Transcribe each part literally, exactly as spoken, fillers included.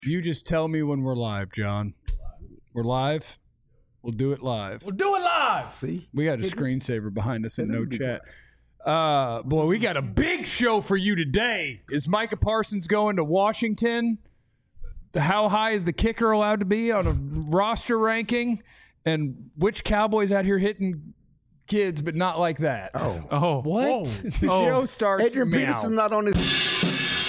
You just tell me when we're live, John. We're live. We'll do it live. We'll do it live. See? We got a screensaver behind us and no chat. Uh, boy, we got a big show for you today. Is Micah Parsons going to Washington? How high is the kicker allowed to be on a roster ranking? And which Cowboys out here hitting kids, but not like that? Oh. Oh. What? Whoa. The Oh. show starts Adrian meow. Peterson's not on this.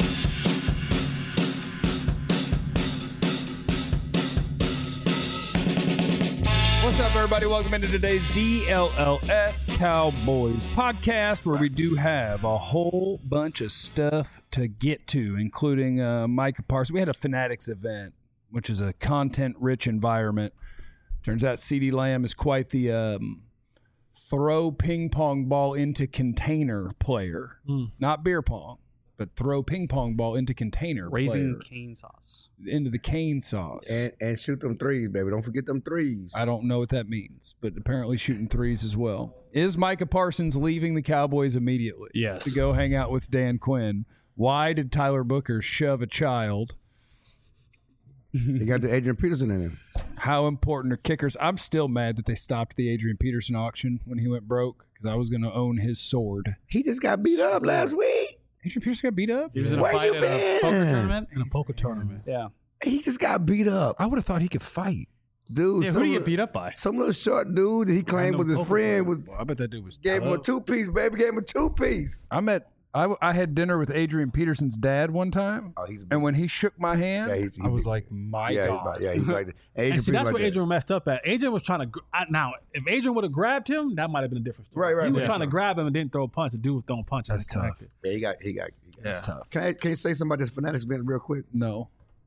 What's up, everybody? Welcome into today's D L L S Cowboys podcast, where we do have a whole bunch of stuff to get to, including uh, Micah Parsons. We had a Fanatics event, which is a content-rich environment. Turns out CeeDee Lamb is quite the um, throw ping pong ball into container player. Mm. Not beer pong, but throw ping pong ball into container Raising player. cane sauce. Into the cane sauce. And, and shoot them threes, baby. Don't forget them threes. I don't know what that means, but apparently shooting threes as well. Is Micah Parsons leaving the Cowboys immediately? Yes. To go hang out with Dan Quinn. Why did Tyler Booker shove a child? He got the Adrian Peterson in him. How important are kickers? I'm still mad that they stopped the Adrian Peterson auction when he went broke, because I was going to own his sword. He just got beat up last week. Adrian Peterson got beat up? He was in a Where fight you at a poker been? tournament. In a poker tournament. Yeah. He just got beat up. I would have thought he could fight. Dude, Yeah, who some do you little- get beat up by? Some little short dude that he claimed was his poker friend was Well, I bet that dude was gave him a tough. two-piece, baby. Gave him a two-piece. I met, I, I had dinner with Adrian Peterson's dad one time, Oh, he's and when he shook my hand, Yeah, he's- he I was beat- like, my yeah, God. He, yeah, he's like that. Adrian And see, Peterson that's like what that. Adrian messed up at. Adrian was trying to. Gr- I, now, if Adrian would have grabbed him, that might have been a different story. Right, right, He was right. trying to grab him and didn't throw a punch. The dude was throwing punches. That's and tough. connected. Yeah, he got, he got, he got. That's tough. Can I, can you say something about this Fanatics event real quick? No.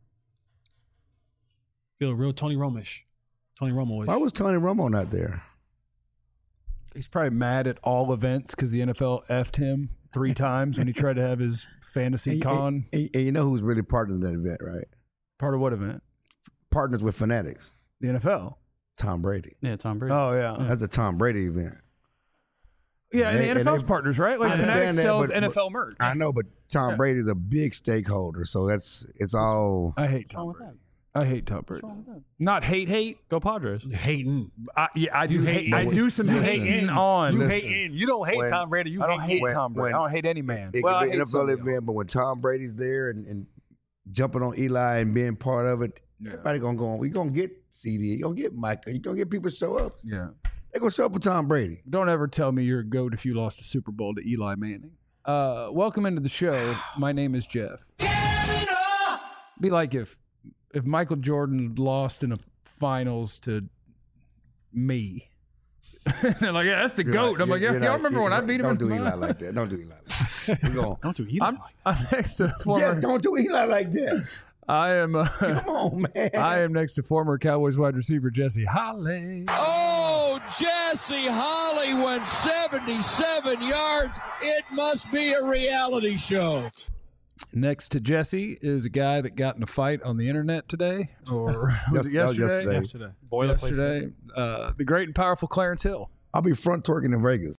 Feel real Tony Romish. Tony Romo. Why was Tony Romo not there? He's probably mad at all events because the N F L effed him three times when he tried to have his fantasy And, con. and, and you know who's really partners in that event, right? Part of what event? Partners with Fanatics. The N F L. Tom Brady. Yeah, Tom Brady. Oh, yeah. That's a Tom Brady event. Yeah, and They- the and N F L's they- partners, right? Like I understand Fanatics that, sells but- N F L merch. I know, but Tom Yeah. Brady's a big stakeholder, so that's it's all. I hate What's wrong Tom with Brady. that? I hate Tom Brady. What's wrong with that? Not hate, hate. Go Padres. You hating. I, yeah, I do You hate. hating. I do some You hating hating. on. You Listen, hating. You don't hate when- Tom Brady. You I don't hate when- Tom Brady. when- I don't hate any man. It well, I could be hate an N F L some of them. event, but when Tom Brady's there and, and jumping on Eli and being part of it, Yeah. everybody gonna go on. We gonna get C D. You gonna get Micah. You gonna get people to show up. Yeah. They gonna show up with Tom Brady. Don't ever tell me you're a goat if you lost a Super Bowl to Eli Manning. Uh, welcome into the show. My name is Jeff. Be like if if Michael Jordan lost in a finals to me. They're like, yeah, that's the You're goat. not- I'm like, yeah, you're y'all not- remember when I you're- beat him Don't in do the Eli finals? like that. Don't do Eli like that. We going. Don't you eat I'm, him like I'm next to former. Yes, don't do Eli like that. I am. Uh, Come on, man. I am next to former Cowboys wide receiver Jesse Holly. Oh, Jesse Holly went seventy-seven yards. It must be a reality show. Next to Jesse is a guy that got in a fight on the internet today, or was it Yes, that was yesterday? yesterday. yesterday? Boilerplate. Yesterday, uh, the great and powerful Clarence Hill. I'll be front twerking in Vegas.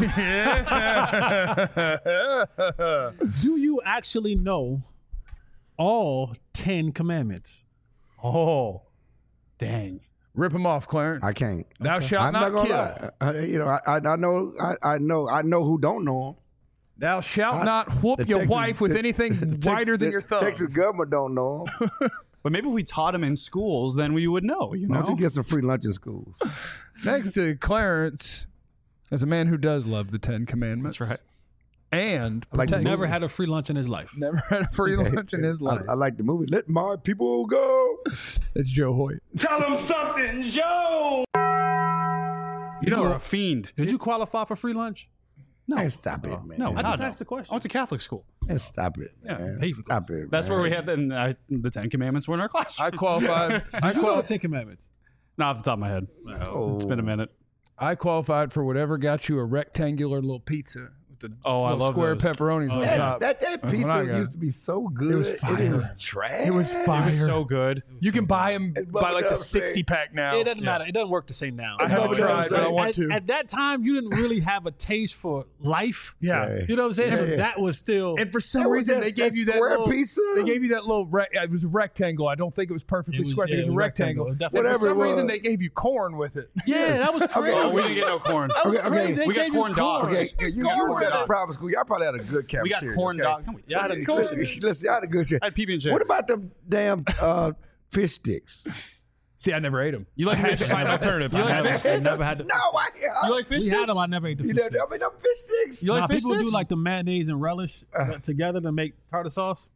Do you actually know all ten commandments? Oh, dang. Rip him off, Clarence. I can't. Thou shalt I'm not, not, gonna kill. lie. I, you know, I, I, I know, I, I know, I know who don't know him. Thou shalt I- not whoop The your Texas- wife with the- anything the wider Tex- than the your thumb. Texas government don't know him. But maybe if we taught him in schools, then we would know, you Why know? don't you get some free lunch in schools? Next to Clarence is a man who does love the Ten Commandments. That's right. And I like the protects- Never had a free lunch in his life. never had a free lunch in his life. I, I like the movie. Let my people go. It's Joe Hoyt. Tell him something, Joe! You know, you're a fiend. Did you qualify for free lunch? No. Man, stop it, man. No, I just no. asked the question. I went to Catholic school. Man, stop it. Yeah, man. hey, Stop it. That's man. where we had the, and I, the Ten Commandments were in our class. I qualified. I, you know qual- the Ten Commandments. Not off the top of my head. Oh. It's been a minute. I qualified for whatever got you a rectangular little pizza with the Oh, I little love square those. pepperonis Oh, on yeah. top. That, that That's what I pizza got. used to be so good. It was and fire. it was trash. It was fire. It was so good. You can buy them It's by like the bubblegum sixty pack now. It doesn't matter. It doesn't work the same now. I haven't Bubblegum tried, but I Same. want at, to. at that time, you didn't really have a taste for life. Yeah. Yeah. You know what I'm saying? Yeah, so yeah. that was still. And for some That was reason, that- they gave that you that square little pizza? They gave you that little. Rec- it was a rectangle. I don't think it was perfectly It was- square. I think yeah, it was a it was rectangle. rectangle. It And definitely for Whatever some it reason, was. they gave you corn with it. yeah, that was crazy. Oh, we didn't get no corn. That was Okay, okay. crazy. They We got gave you corn dogs. Okay, you, you, you was at a private school. Y'all probably had a good We got cafeteria. corn okay? dog. No, we- Y'all had a Listen, listen, listen, y'all had a good. I had P B and J. What about them damn uh, fish sticks? See, I never ate them. You like I had fish? to find an alternative. You I like had fish? I never had the. No, I, I You like fish we sticks? had them. I never ate the You fish know, I sticks. mean, them fish sticks. You like Nah, fish people do sticks? like the mayonnaise and relish uh, together to make tartar sauce.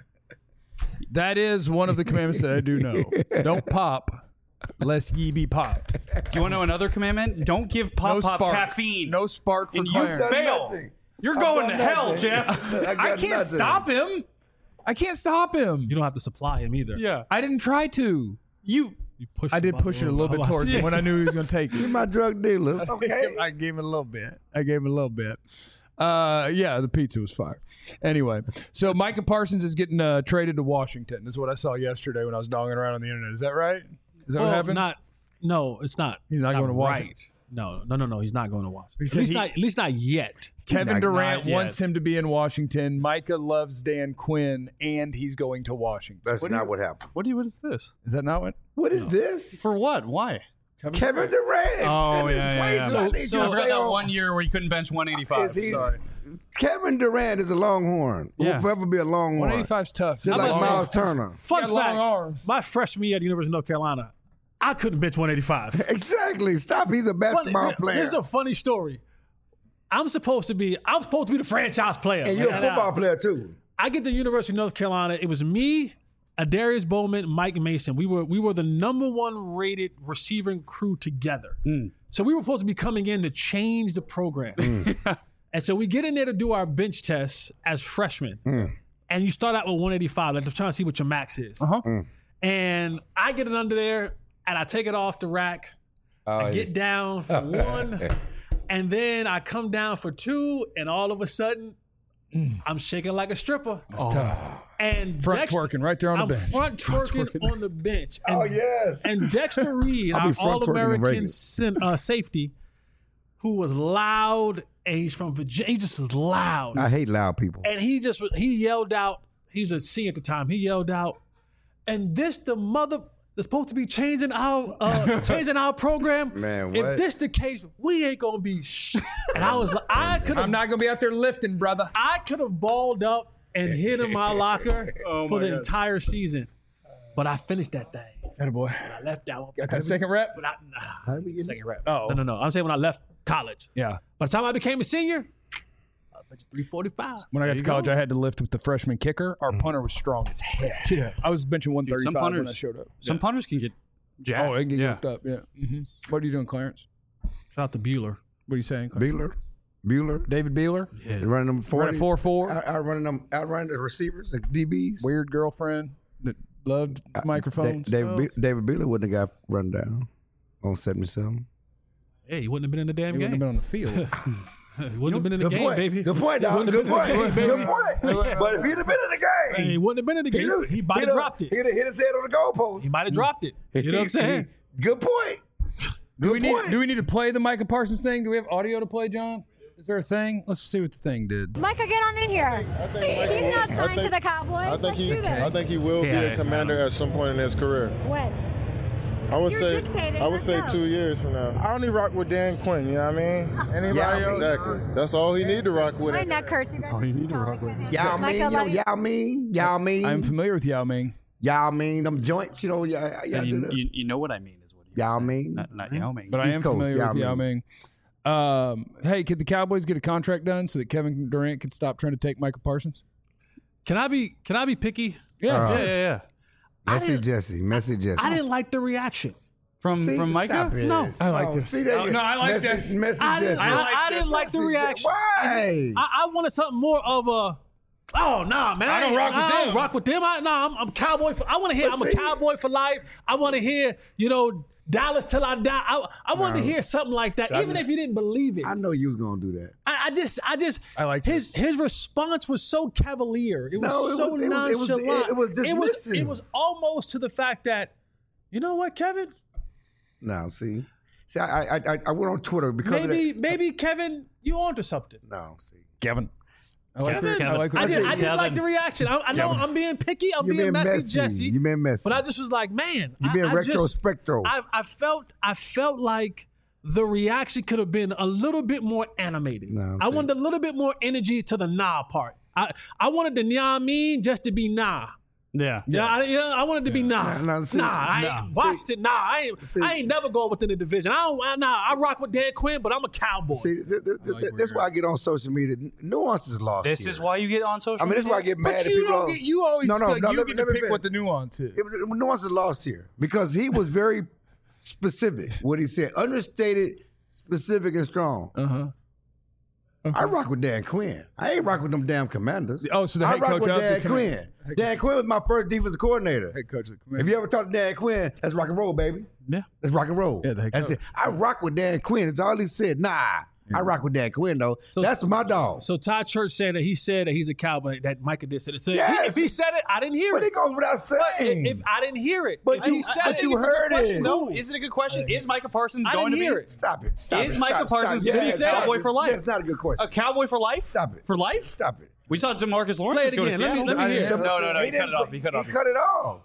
That is one of the commandments that I do know. Don't pop, lest ye be popped. Do you want to know another commandment? Don't give Pop No Pop spark. caffeine. No spark for And you Clarence. Done fail. nothing. You're I've going done to hell, nothing. Jeff. I, got I can't nothing. stop him. I can't stop him. You don't have to supply him either. Yeah. I didn't try to. You. You push. I the did push it a button little bit towards him when I knew he was going to take You're it. my drug dealer. Okay. I gave him a little bit. I gave him a little bit. Uh, yeah, the pizza was fire. Anyway, so Micah Parsons is getting uh, traded to Washington. Is what I saw yesterday when I was donging around on the internet. Is that right? Is that Well, what happened? Not. No, it's not. He's not going to Washington. Right. No, no, no, no. He's not going to Washington. said At least he- not. At least not yet. Kevin Not- Durant not wants yet. him to be in Washington. Micah loves Dan Quinn, and he's going to Washington. That's What do not you- what happened. What do you? What is this? Is that not what? What is this? For what? Why? Kevin Durant. Oh, That is yeah, yeah, crazy. yeah. I So, need you so to for stay that on- one year where you couldn't bench one eighty-five. Is he- Sorry. Kevin Durant is a Longhorn. Yeah. Will forever be a Longhorn. one eighty-five's tough. Just I'm like about to say- Miles Turner. Fun got long fact: arms. my freshman year at the University of North Carolina, I couldn't bench one eighty-five. Exactly. Stop. He's a basketball Funny- player. Here's a funny story. I'm supposed to be. I'm supposed to be the franchise player. and you're a And football I, player too. I get to the University of North Carolina. It was me, Adarius Bowman, Mike Mason. We were we were the number one rated receiving crew together. So we were supposed to be coming in to change the program. And so we get in there to do our bench tests as freshmen. And you start out with one eighty-five, like trying to see what your max is. Uh-huh. And I get it under there, and I take it off the rack. Oh, I get down for one, and then I come down for two, and all of a sudden, I'm shaking like a stripper. That's tough. And Front Dexter- twerking right there on I'm the bench. front twerking on the bench. And, Oh yes. and Dexter Reed, I'll our be front twerking in All-American Vegas. sin, uh, safety, who was loud, and he's from Virginia. He just was loud. I hate loud people. And he just he yelled out. He was a senior at the time. He yelled out, "And this the mother that's supposed to be changing our uh, changing our program. Man, if what? this the case, we ain't gonna be." Sh-. And I was like, I could I'm have not going to be out there lifting, brother. I could have balled up and hid in my locker Oh for my the God. entire season, but I finished that thing. Attaboy. I left that one. Got that second rep? But I, How nah, we get- second rep. Oh. No, no, no. I'm saying when I left college. Yeah. By the time I became a senior, I bet you three forty-five. When I got to college, I had to lift with the freshman kicker. Our punter was strong as hell. Yeah. I was benching one Dude, some thirty-five when I punters- showed up. Some punters can get jacked. Oh, it can get yeah. hooked up. Yeah. hmm What are you doing, Clarence? Shout out to Bueller. What are you saying, Clarence? Bueller. Bueller. David Beeler? They're running them Running forty. four four. Out, outrunning them. Outrunning the receivers, the D Bs. Weird girlfriend that loved microphones. Da- David Be- David Beeler wouldn't have got run down on seventy-seven. Hey, he wouldn't have been in the damn He wouldn't game. have been on the field. He wouldn't have been in the Good game, point. baby. Good point, He dog. wouldn't Good have point. been in the game, Good baby. point. But if he'd have been in the game, He wouldn't have been in the game. he'd have- He might he'd have have- dropped it. He'd have hit his head on the goalpost. He might have dropped it. You know what I'm saying? Good point. do we Good need point. do we need to play the Micah Parsons thing? Do we have audio to play, John? Is there a thing? Let's see what the thing did. Micah, get on in here. I think Micah He's will- not I signed to think- the Cowboys. I think Let's he, do this. I think he will Yeah, be yeah. a commander at some point in his career. When? I would You're say, dictating, I would let's say go. two years from now. I only rock with Dan Quinn, you know what I mean? Anybody Yeah, else? Exactly. That's all he need to rock with. My neck hurts. That's all you need to rock with. Y'all mean, Micah, you know, let me- y'all mean, y'all mean, I'm familiar with Yao Ming. y'all mean them joints, you know, y'all, y'all do you, that. you, you know what I mean is what he Yao was saying. Ming? Not, not Yao Ming. But I East am Coast, familiar Yao with Yao Ming. Ming. Um, hey, could the Cowboys get a contract done so that Kevin Durant could stop trying to take Micah Parsons? Can I be Can I be picky? Yeah. Uh, yeah, yeah, yeah. Messy didn't- Jesse, Messy Jesse. I didn't like the reaction. From See, from Micah? stop it. No. I like Oh, this. See, there Oh, you- no, I like Messy, this. Messy I didn't, Jesse. I, like I this. didn't like the Messy Je- reaction. Why? I, I wanted something more of a Oh nah, man! I don't ain't- rock with I them. don't rock with them. I, nah, I'm, I'm cowboy. For, I want to hear. But I'm a see- cowboy for life. I want to hear. You know, Dallas till I die. I, I wanted to No. hear something like that, So I even know- if you didn't believe it. I know you was gonna do that. I, I just, I just, I like his this. his response was so cavalier. It was No, it so was- it was- it was- nonchalant. it was it was, dismissive. it was almost to the fact that, you know what, Kevin? Now, see, see, I, I, I, I went on Twitter because Maybe, of that. maybe Kevin, you onto something. No, see, Kevin. I like Kevin, your- I like what I you did, said. I did like the reaction. I, I know Kevin. I'm being picky. I'm you're being, being messy, messy. Jesse. You're being messy. But I just was like, man, You're being I, I just- retrospectral. I, I felt, I felt like the reaction could have been a little bit more animated. No, I see. wanted a little bit more energy to the nah part. I, I wanted the nah mean just to be nah. Yeah. Yeah, I, yeah, I wanted to be nah. Nah, nah, see, nah, I nah. ain't watched it. Nah, I ain't. See- I ain't never going within the division. I don't. I, nah, I rock with Dan Quinn, but I'm a cowboy. See, th- th- th- like th- where that's you're why I get on social media. Nuance is lost. This here. is why you get on social I mean, media. that's why I get mad But at you, people. don't get, you always No, no, feel like no, you let get me- to let me pick finish. what the nuance is. It was, nuance is lost here because he was very specific. What he said, understated, specific, and strong. Uh huh. I rock with Dan Quinn. I ain't rock with them damn Commanders. Oh, so the I head rock coach with of the Dan Commanders. Quinn. Head Dan Quinn was my first defensive coordinator. Head coach of the If Commanders. you ever talk to Dan Quinn, that's rock and roll, baby. Yeah. That's rock and roll. Yeah, the head That's coach. it. I rock with Dan Quinn. That's all he said. Nah, I rock with Dan Quinn though. So- That's my dog. So Todd Church said that he said that he's a cowboy. That Micah did say it. So if he- Yes. if he said it, I didn't hear But it. it goes without But saying. if, if I didn't hear it, But if you- he said but it, you it's a good heard question. it. No, is it a good question? Is Micah Parsons I going didn't to hear be it. Stop it. Stop Is it. Micah stop, Parsons stop. gonna be Yeah, a cowboy stop. for life? That's not a good question. a cowboy for life? Stop it. For life? Stop it. We saw DeMarcus Lawrence Play it just go to again. Let me- Seattle. let me hear it. No, no, no. He cut didn't- it off. He cut it He off. cut it off.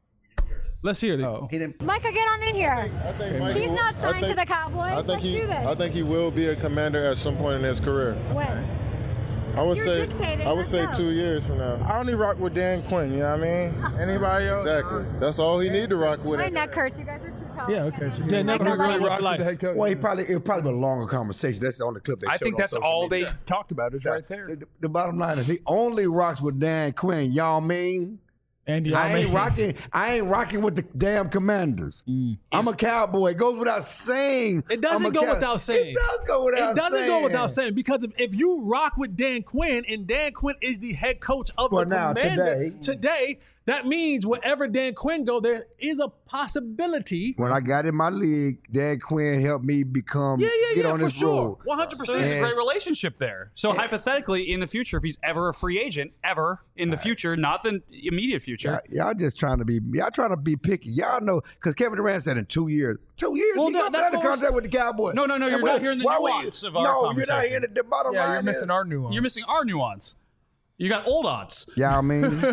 Let's hear it. Oh. He didn't. Micah, get on in here. I think Mike He's will- not I signed think- to the Cowboys. I think Let's he. do this. I think he will be a commander at some point in his career. when? I would You're say. dictating, I would let's say go. two years from now. I only rock with Dan Quinn, you know what I mean? Anybody else? Exactly. That's all he need to rock with. My him. neck hurts. You guys are too tall. Yeah, okay. So Yeah, he never he heard really of it. rocks with the head coach. Well, he probably it'll probably be a longer conversation. That's the only clip they I showed think on that's social all they media. talked about is right there. The, the bottom line is he only rocks with Dan Quinn. Y'all mean? Andy, I ain't rocking. I ain't rocking with the damn Commanders. I'm a cowboy. It goes without saying. It doesn't I'm a go cow- without saying. It does go without It doesn't saying. go without saying because if, if you rock with Dan Quinn and Dan Quinn is the head coach of For the now, Commander today. today, that means wherever Dan Quinn go, there is a possibility. When I got in my league, Dan Quinn helped me become Yeah, yeah, get yeah, on for this sure, road. one hundred So there's percent. a great relationship there. So hypothetically, in the future, if he's ever a free agent, ever in the future, not the immediate future. Y'all, y'all just trying to be y'all trying to be picky. Y'all know because Kevin Durant said in two years, two years Well, he no, gonna that's sign the what we're- contract with the Cowboys. No, no, no, And you're what- not hearing the why we- nuance of our No, you're not conversation. hearing the, the bottom Yeah, line. you're missing is- our nuance. You're missing our nuance. You got old odds. Y'all mean?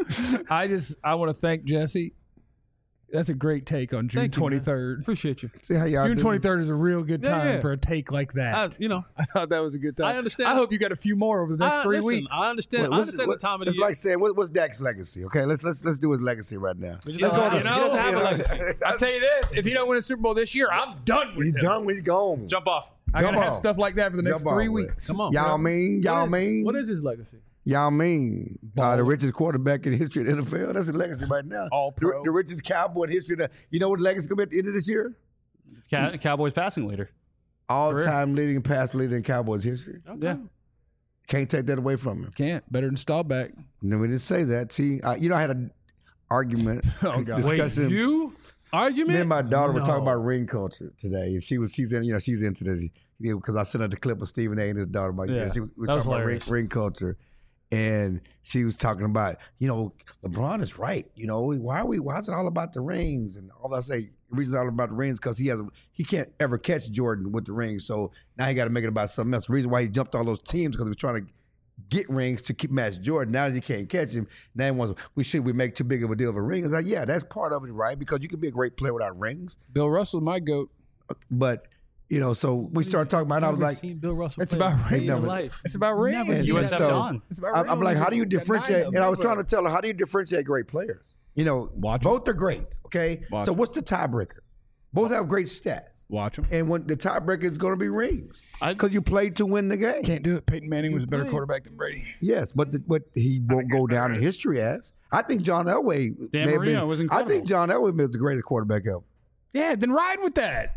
I just I want to thank Jesse. That's a great take on June Thank you, man. twenty-third. Appreciate you. See how y'all June do? twenty-third is a real good Yeah, time yeah. for a take like that. I, you know, I thought that was a good time. I understand. I hope you got a few more over the next I, three listen, weeks. I understand. What- I what's- understand what- the time of the It's year. like saying, what, what's Dak's legacy? Okay, let's let's let's do his legacy right now. He Let's doesn't go have- to- he doesn't have a you know, legacy. I'll tell you this: if he don't win a Super Bowl this year, I'm done with He's him. done when he's gone. Jump off. I gotta Jump have off. stuff like that for the next Jump three off with it. weeks. Come on, Y'all bro. mean? Y'all What is- mean? What is his legacy? Y'all mean uh, the richest quarterback in the history of the N F L? That's his legacy right now. All The, pro. the richest cowboy in the history of the. You know what legacy gonna be at the end of this year? Cow- Cowboys passing leader. All time leading pass leader in Cowboys history. Yeah. Can't take that away from him. Can't better than Staubach. No, we didn't say that. See, uh, you know, I had an argument, Oh, God. discussion. Wait, you argument? Me and my daughter were No. talking about ring culture today, and she was she's in you know she's into this because I sent her the clip of Stephen A. and his daughter. Like, Yeah, she was, we were that was talking about ring, hilarious. ring culture, and she was talking about you know LeBron is right. You know why are we? Why is it all about the rings and all that? I say the reason it's all about the rings because he has a, he can't ever catch Jordan with the rings, so now he got to make it about something else. The reason why he jumped all those teams because he was trying to get rings to keep match Jordan. Now that you can't catch him, now he wants we should we make too big of a deal of a ring? It's like yeah, that's part of it, right? Because you can be a great player without rings, Bill Russell, my goat. but. You know, so we started talking about. it, and I was Never like, seen Bill Russell It's play about a day in rings. life. It's about rings. Never And seen U S that. F so- Don. It's about I'm, I'm rings. like, how do you Got nine differentiate? of And I was them. trying to tell her, how do you differentiate great players? You know, Watch 'em. both are great. Okay, Watch so 'em. what's the tiebreaker? Both have great stats, Watch him. and when the tiebreaker is going to be rings I- because you played to win the game. Can't do it. Peyton Manning was a better quarterback than Brady. Yes, but the, but he won't go down in history as. I think John Elway Dan may have Marino been. was I incredible. think John Elway was the greatest quarterback ever. Yeah, then ride with that.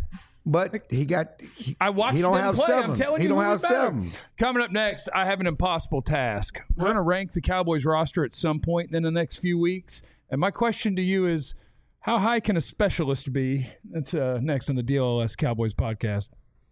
But he got. He, I watched he don't them have play. seven. I'm telling he you, don't who have was better. seven. Coming up next, I have an impossible task. We're going to rank the Cowboys roster at some point in the next few weeks. And my question to you is, how high can a specialist be? That's uh, next on the D L L S Cowboys podcast.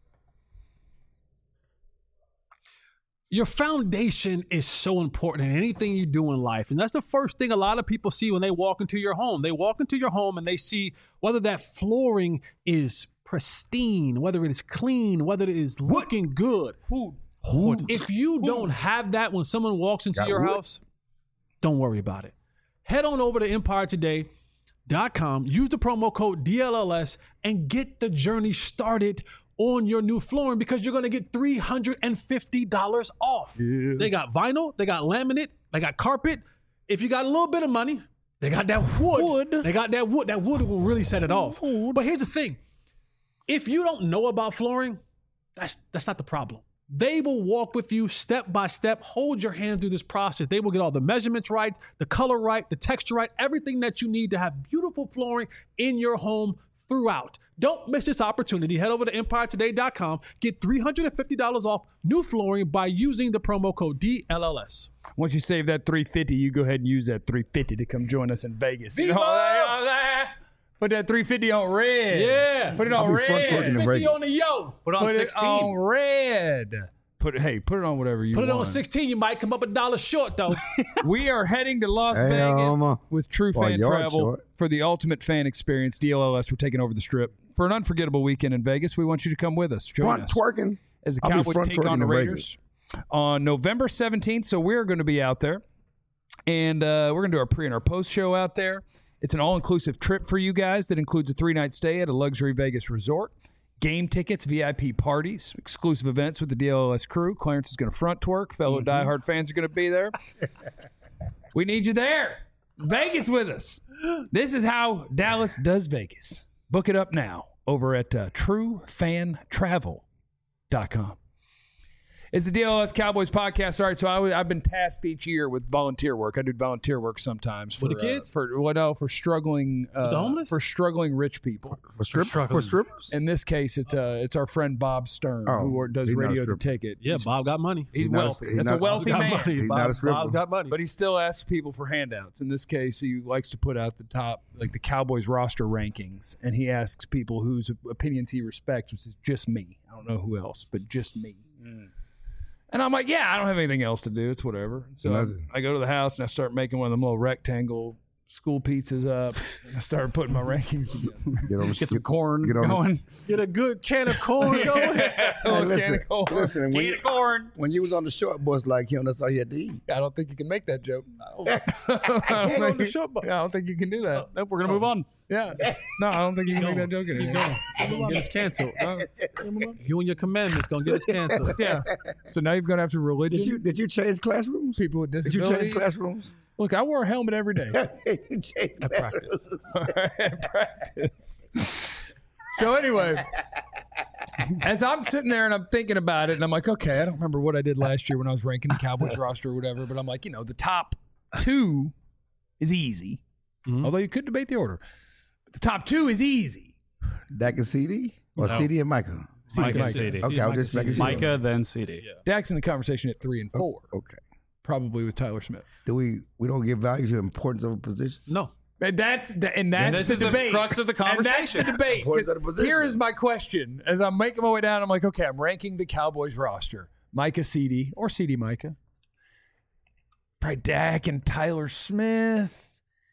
Your foundation is so important in anything you do in life. And that's the first thing a lot of people see when they walk into your home. They walk into your home and they see whether that flooring is pristine, whether it is clean, whether it is looking good. Wood. Wood. If you don't have that when someone walks into Got your wood. house, don't worry about it. Head on over to empire today dot com, use the promo code D L L S, and get the journey started on your new flooring because you're going to get three hundred fifty dollars off. Yeah. They got vinyl, they got laminate, they got carpet. If you got a little bit of money, they got that wood. Wood. They got that wood. That wood will really set it off. Wood. But here's the thing. If you don't know about flooring, that's that's not the problem. They will walk with you step by step, hold your hand through this process. They will get all the measurements right, the color right, the texture right, everything that you need to have beautiful flooring in your home throughout. Don't miss this opportunity. Head over to empire today dot com. Get three hundred fifty dollars off new flooring by using the promo code D L L S. Once you save that three hundred fifty dollars, you go ahead and use that three hundred fifty dollars to come join us in Vegas. You know, Viva! put that three hundred fifty dollars on red. Yeah. Put it I'll on be front red. torquing the fifty Vegas. on the yo. Put on Put it sixteen. on red. Put it, hey, put it on whatever you Put it want. on sixteen. You might come up a dollar short, though. We are heading to Las Hey, Vegas um, with True well, Fan yard Travel short. for the ultimate fan experience. D L L S, we're taking over the Strip. For an unforgettable weekend in Vegas, we want you to come with us. Join Front us twerking. as the I'll be Cowboys front take on twerking the in Raiders on November seventeenth. So we're going to be out there, and uh, we're going to do our pre and our post show out there. It's an all-inclusive trip for you guys that includes a three-night stay at a luxury Vegas resort, game tickets, V I P parties, exclusive events with the D L L S crew. Clarence is going to front twerk. Fellow diehard fans are going to be there. We need you there. Vegas with us. This is how Dallas does Vegas. Book it up now over at uh, true fan travel dot com. It's the D L L S Cowboys podcast. All right, so I, I've been tasked each year with volunteer work. I do volunteer work sometimes for With the kids? uh, for well, no, for struggling uh, the homeless? for struggling rich people. For, strip, for, struggling. strippers? In this case, it's uh, it's our friend Bob Stern Oh, who does he's not a radio the stripper. ticket. Yeah, he's, Bob got money. he's, He's not a- wealthy. he's That's not- a wealthy Got man. money. He's Bob, not a stripper. Bob's got money. But he still asks people for handouts. In this case, he likes to put out the top, like the Cowboys roster rankings, and he asks people whose opinions he respects, which is just me. I don't know who else, but just me. And I'm like, yeah, I don't have anything else to do. It's whatever. So I, Nothing. I go to the house and I start making one of them little rectangle school pizzas up. And I started putting my rankings together. Get, on the, Get some corn get on the- going. Get a good can of corn going. Hey, Little listen, can of corn. listen, when Can you, of corn. when you was on the short bus like him, that's all you had to eat. I don't think you can make that joke. I don't Can't on the think- short bus. yeah, I don't think you can do that. Nope, we're gonna move on. Yeah. No, I don't think you can make that joke Keep anymore. going. Get us canceled. You and your commandments gonna get us canceled. Yeah. So now you're going to have to religion. Did you did you change classrooms? people with Did you disabilities. change classrooms? Look, I wear a helmet every day. You changed At practice. At practice. So anyway, as I'm sitting there and I'm thinking about it, and I'm like, okay, I don't remember what I did last year when I was ranking the Cowboys roster or whatever, but I'm like, you know, the top two is easy. Mhm. Although you could debate the order. But the top two is easy. Dak and C D? Or No. C D and Micah? Micah, Micah. C D. Okay, I'll just make sure. Micah, then C D. Dak's in the conversation at three and four, Okay. probably with Tyler Smith. Do we we don't give value to the importance of a position? No. And that's the, and that's this the is the debate. crux of the And that's the conversation. debate. Importance 'Cause of the position. Here is my question: as I'm making my way down, I'm like, okay, I'm ranking the Cowboys roster: Micah, C D, or C D, Micah. Probably Dak and Tyler Smith.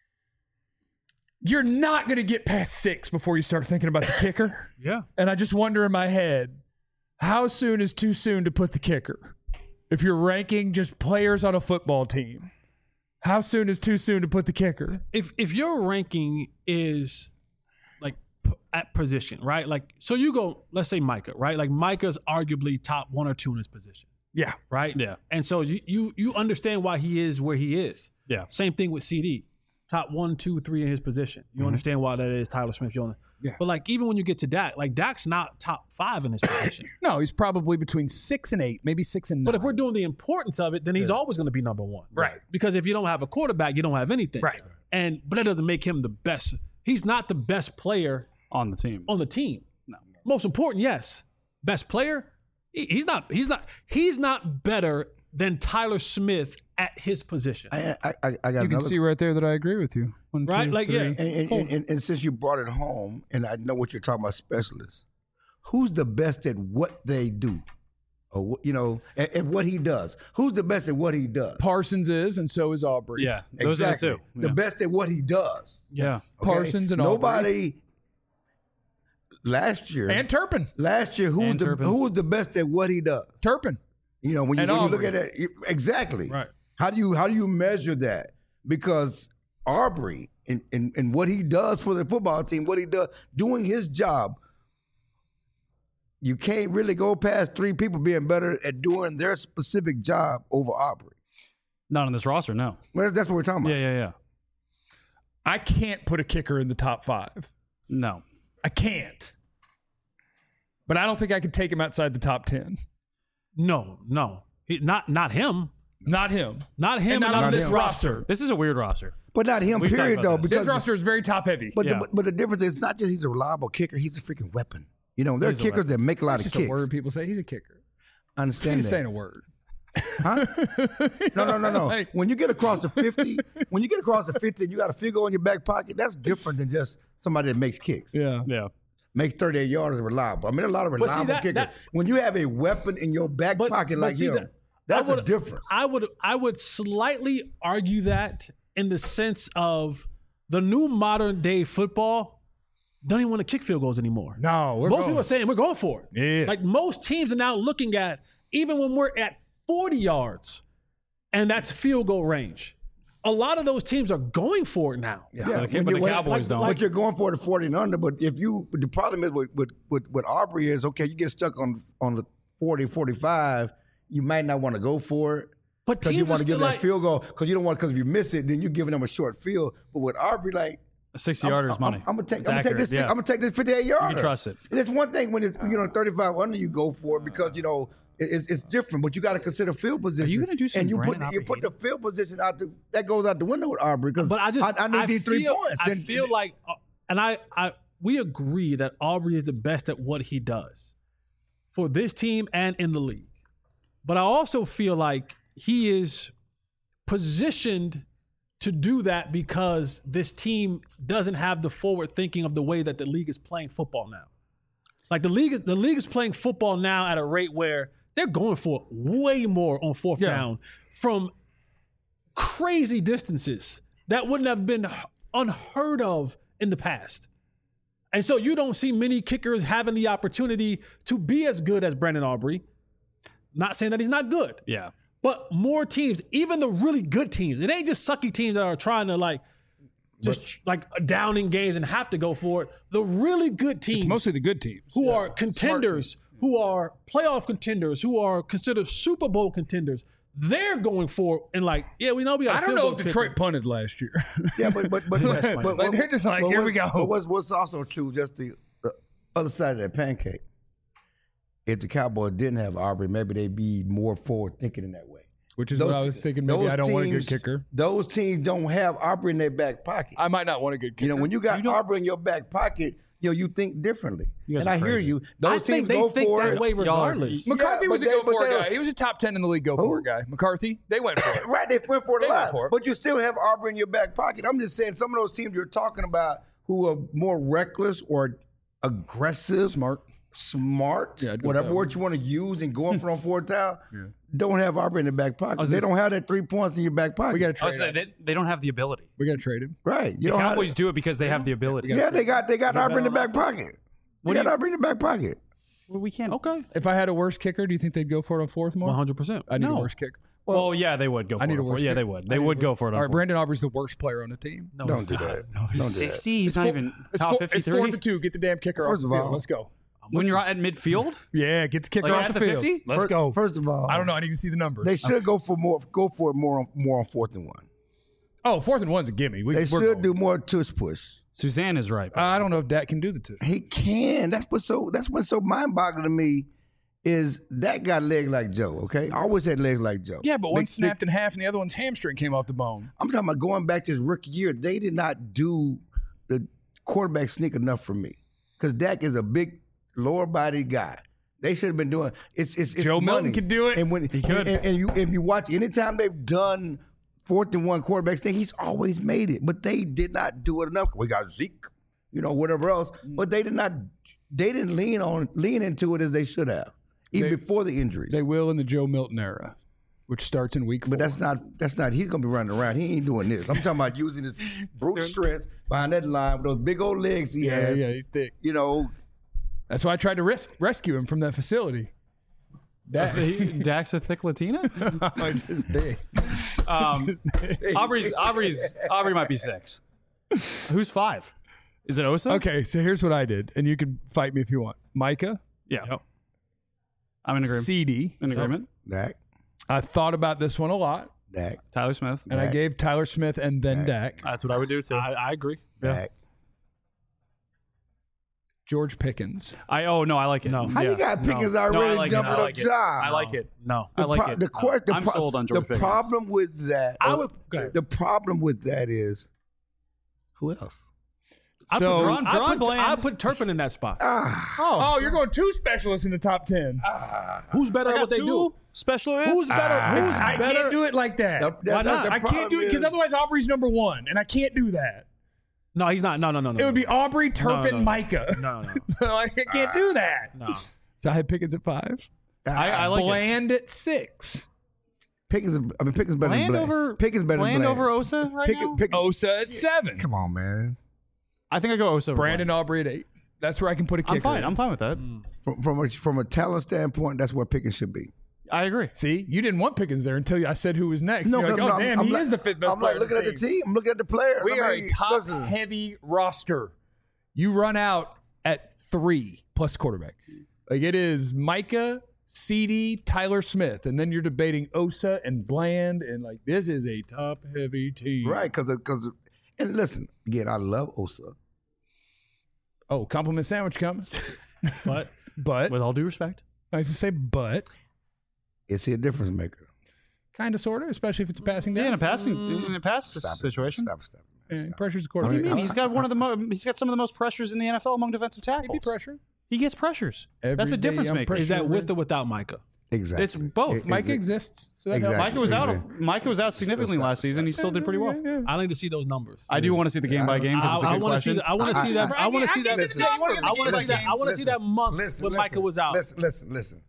You're not going to get past six before you start thinking about the kicker. Yeah. And I just wonder in my head, how soon is too soon to put the kicker? If you're ranking just players on a football team, how soon is too soon to put the kicker? If if your ranking is like p- at position, right? Like so you go, let's say Micah, right? Like Micah's arguably top one or two in his position, Yeah. right? Yeah. And so you you you understand why he is where he is. Yeah. Same thing with C D. Top one, two, three in his position. You understand why that is Tyler Smith. You know? Yeah. But like even when you get to Dak, like Dak's not top five in his position. No, he's probably between six and eight, maybe six and nine. But if we're doing the importance of it, then he's always going to be number one. Right. Because if you don't have a quarterback, you don't have anything. Right. And but that doesn't make him the best. He's not the best player On the team. on the team. No. Most important, yes. Best player, he, he's not. He's not. He's not better than Tyler Smith at his position. I, I, I, I got You can another see right there that I agree with you. One, Right? two, Like, three. yeah. And, and, and, and, and since you brought it home, and I know what you're talking about, specialists, who's the best at what they do? Or, wh- you know, at, at what he does? Who's the best at what he does? Parsons is, and so is Aubrey. Yeah, those exactly. are the two. The Yeah. best at what he does. Yeah. okay? Parsons and Aubrey. Nobody last year. And Turpin. last year, who was And the Turpin. who was the best at what he does? Turpin. You know, when you, And when you look Aubrey. at it, you- exactly. Right. How do you how do you measure that? Because Aubrey and, and, and what he does for the football team, what he does doing his job, you can't really go past three people being better at doing their specific job over Aubrey. Not on this roster, no. Well, that's what we're talking about. Yeah, yeah, yeah. I can't put a kicker in the top five. No. I can't. But I don't think I could take him outside the top ten. No, no, He- not not him. Not him. Not him. And not and on not this him. roster. This is a weird roster. But not him, We've talked period, about though. this. Because This roster is very top heavy. but, Yeah. the, but, but the difference is not just he's a reliable kicker, he's a freaking weapon. You know, there are He's a kickers weapon. that make a lot That's of just kicks. a word people say. He's a kicker. I understand He's that. saying a word. Huh? No, no, no, no. Like- When you get across the fifty, when you get across the fifty and you got a field goal in your back pocket, that's different than just somebody that makes kicks. Yeah. Yeah. Makes thirty-eight yards reliable. I mean, a lot of see, reliable that- kickers. that- when you have a weapon in your back But- pocket but like see, him, that- that's I a would- difference. I would I would slightly argue that in the sense of the new modern day football don't even want to kick field goals anymore. No, we're most going. people are saying we're going for it. Yeah. Like most teams are now looking at even when we're at forty yards, and that's field goal range. A lot of those teams are going for it now. Yeah, But the, when but the you- when- Cowboys like- don't. like- But you're going for the forty and under. But if you, but the problem is with with with, with Aubrey is okay. You get stuck on on the forty, forty-five. You might not want to go for it. But Because you teams want are to give still that like, field goal because you don't want because if you miss it, then you're giving them a short field. But with Aubrey, like a sixty yarder is money. I'm, I'm gonna take. It's I'm gonna take accurate, this. yeah. I'm gonna take this fifty-eight yarder. You can trust it. And it's one thing when it's you know thirty-five under, you go for it because you know it- it's, it's different. But you got to consider field position. you gonna do some And you put Brandon you put the Aubrey field position out the that goes out the window with Aubrey because But I just I, I need these three feel, points. I Then- feel like, uh, and I, I, we agree that Aubrey is the best at what he does for this team and in the league. But I also feel like he is positioned to do that because this team doesn't have the forward thinking of the way that the league is playing football now. Like the league, the league is playing football now at a rate where they're going for way more on fourth Yeah. down from crazy distances that wouldn't have been unheard of in the past. And so you don't see many kickers having the opportunity to be as good as Brandon Aubrey. Not saying that he's not good, Yeah. but more teams, even the really good teams, it ain't just sucky teams that are trying to like just like down in games and have to go for it. The really good teams It's mostly the good teams. who are contenders, who are playoff contenders, who are considered Super Bowl contenders, they're going for it and like, yeah, we know we got a I don't field know goal if kicker. Detroit punted last year. Yeah, but but but, but, Like, but they're just like, but here what's- we go. But what's what's also true, just the, the other side of that pancake. If the Cowboys didn't have Aubrey, maybe they'd be more forward thinking in that way. Which is Those what I was te- thinking. Maybe those I don't want a good teams- kicker. Those teams don't have Aubrey in their back pocket. I might not want a good kicker. You know, when you got Aubrey in your back pocket, you know, you think differently. You guys and are I hear crazy. you. Those I teams think they go think for that it. way Y'all are- regardless. McCarthy Yeah, was a but go they- but for they- guy. He was a top ten in the league go for guy. McCarthy, they went for it. Right, they went for it They a went lot. for it. But you still have Aubrey in your back pocket. I'm just saying some of those teams you're talking about who are more reckless or aggressive, Smart. smart, Yeah, I'd go with whatever that word you want to use and going for on fourth down, don't have Aubrey in the back pocket. was They gonna don't have that three points in your back pocket. We got to I trade was saying, him. they, they don't have the ability. We got to trade him. right. You The don't have Cowboys do it because they have the ability. Yeah, they got they got Aubrey in the back pocket. They What do got you- Aubrey in the back pocket. Well, we can't. Okay, If I had a worse kicker, do you think they'd go for it on fourth more? one hundred percent. I need a No. worse kicker. Well, yeah, they would go for I need it. a on worse fourth. Yeah, kicker. they would. I They need would a go worse- for it. All On right, fourth. Brandon Aubrey's the worst player on the team. No, Don't he's do not. that. No, he's Don't do that. sixty. He's not four- even it's top four- fifty-three. It's fourth and two. Get the damn kicker First off of the field. all- Let's go. When you're at midfield, Yeah, get the kicker Like off at the, the field. fifty? Let's First, go. First of all, I don't know. I need to see the numbers. They should go for more. Go for it more on more on fourth and one. oh, fourth and one's a gimme. We, They we're should going. do more tush push. Suzanne is right. I don't know if Dak can do the two. He can. That's what's so. That's what's so mind boggling to me. Is that got legs like Joe? Okay, I always had legs like Joe. Yeah, but Big- one big- snapped in half and the other one's hamstring came off the bone. I'm talking about going back to his rookie year. They did not do the quarterback sneak enough for me because Dak is a big, lower body guy. They should have been doing it's it's, it's Joe money. Milton could do it. And when He could. And, and you if you watch anytime they've done fourth and one quarterbacks thing, he's always made it. But they did not do it enough. We got Zeke, you know, whatever else. But they did not they didn't lean on lean into it as they should have, even They- before the injuries. They will in the Joe Milton era, which starts in week four. But that's not that's not he's gonna be running around. He ain't doing this. I'm talking about using his brute strength behind that line with those big old legs he yeah, has. yeah, he's thick. You know, That's why I tried to res- rescue him from that facility. That Dak's a thick Latina. I'm just thick. Um, Aubrey's Aubrey's Aubrey might be six. Who's five? Is it Osa? Okay, so here's what I did, and you can fight me if you want. Micah, Yeah. I'm in agreement. C D. In agreement. Dak, I thought about this one a lot, Dak, Tyler Smith. and I Dak. gave Tyler Smith and then Dak. That's what I would do too. I, I agree. Dak. George Pickens. I oh no, I like it. No. How you got Pickens No, I already like it. jumping I up like it. top? I like it. No. I like pro- it. The, que- the I'm pro- sold on George The Pickens. problem with that, I or would- go ahead. the problem with that is, who else? I So- put, Drawn- I Drawn put, Bland. I put Turpin in that spot. Ah, Oh, you're going two specialists in the top ten. Who's better I at got what they two do? specialists. Who's better? Who's I better? can't do it like that. that- that- Why that's not? the I can't do it problem because is- otherwise Aubrey's number one, and I can't do that. No, he's not. No, no, no, no. It would be Aubrey, Turpin, no, no. Micah. No, no. Like, I can't do that. No. So I had Pickens at five. I, I like it. Bland at six. Pickens. is- I mean, Pickens better Bland than Bland. over Pickens better Bland than Bland. over Osa right Pickens, now. Pickens, Osa at seven. Come on, man. I think I go Osa over Brandon Bland. Aubrey at eight. That's where I can put a kicker. I'm fine. in. I'm fine with that. From from a, from a talent standpoint, that's where Pickens should be. I agree. See, you didn't want Pickens there until I said who was next. No, You're like, no, oh, I'm- damn, I'm he like- is the fifth best I'm player like looking on at the team. I'm looking at the players. We I are mean, a top listen, heavy roster. You run out at three plus quarterback. Like it is Micah, C D, Tyler Smith, and then you're debating Osa and Bland, and like this is a top heavy team. right? Because because and listen again, I love Osa. Oh, compliment sandwich coming. But But With all due respect. I was to say, but Is he a difference maker? kind of, sort of, especially if it's a passing Yeah, down. in a passing in a pass Stop it. situation. Stop, stop. Yeah, pressure's the I quarterback. mean, I mean, he's got one of the mo- he's got some of the most pressures in the N F L among defensive He'd tackles. be pressured. He gets pressures. Every That's a day difference I'm maker. pressured. is that with or without Micah? Exactly. It's both. It- Micah it- exists. So that Exactly. helps. Micah was out. Exactly. Micah was out significantly Stop, last season. He still did pretty well. Yeah, yeah. I need to see those numbers. I do want to see the game by game because it's a I, I good want to see. question. The, I want to I- see that. I- I want to I see get that. the number. You wanna get the I want to game see by that. I want to see that month listen, when listen, Micah was out. Listen, listen, listen.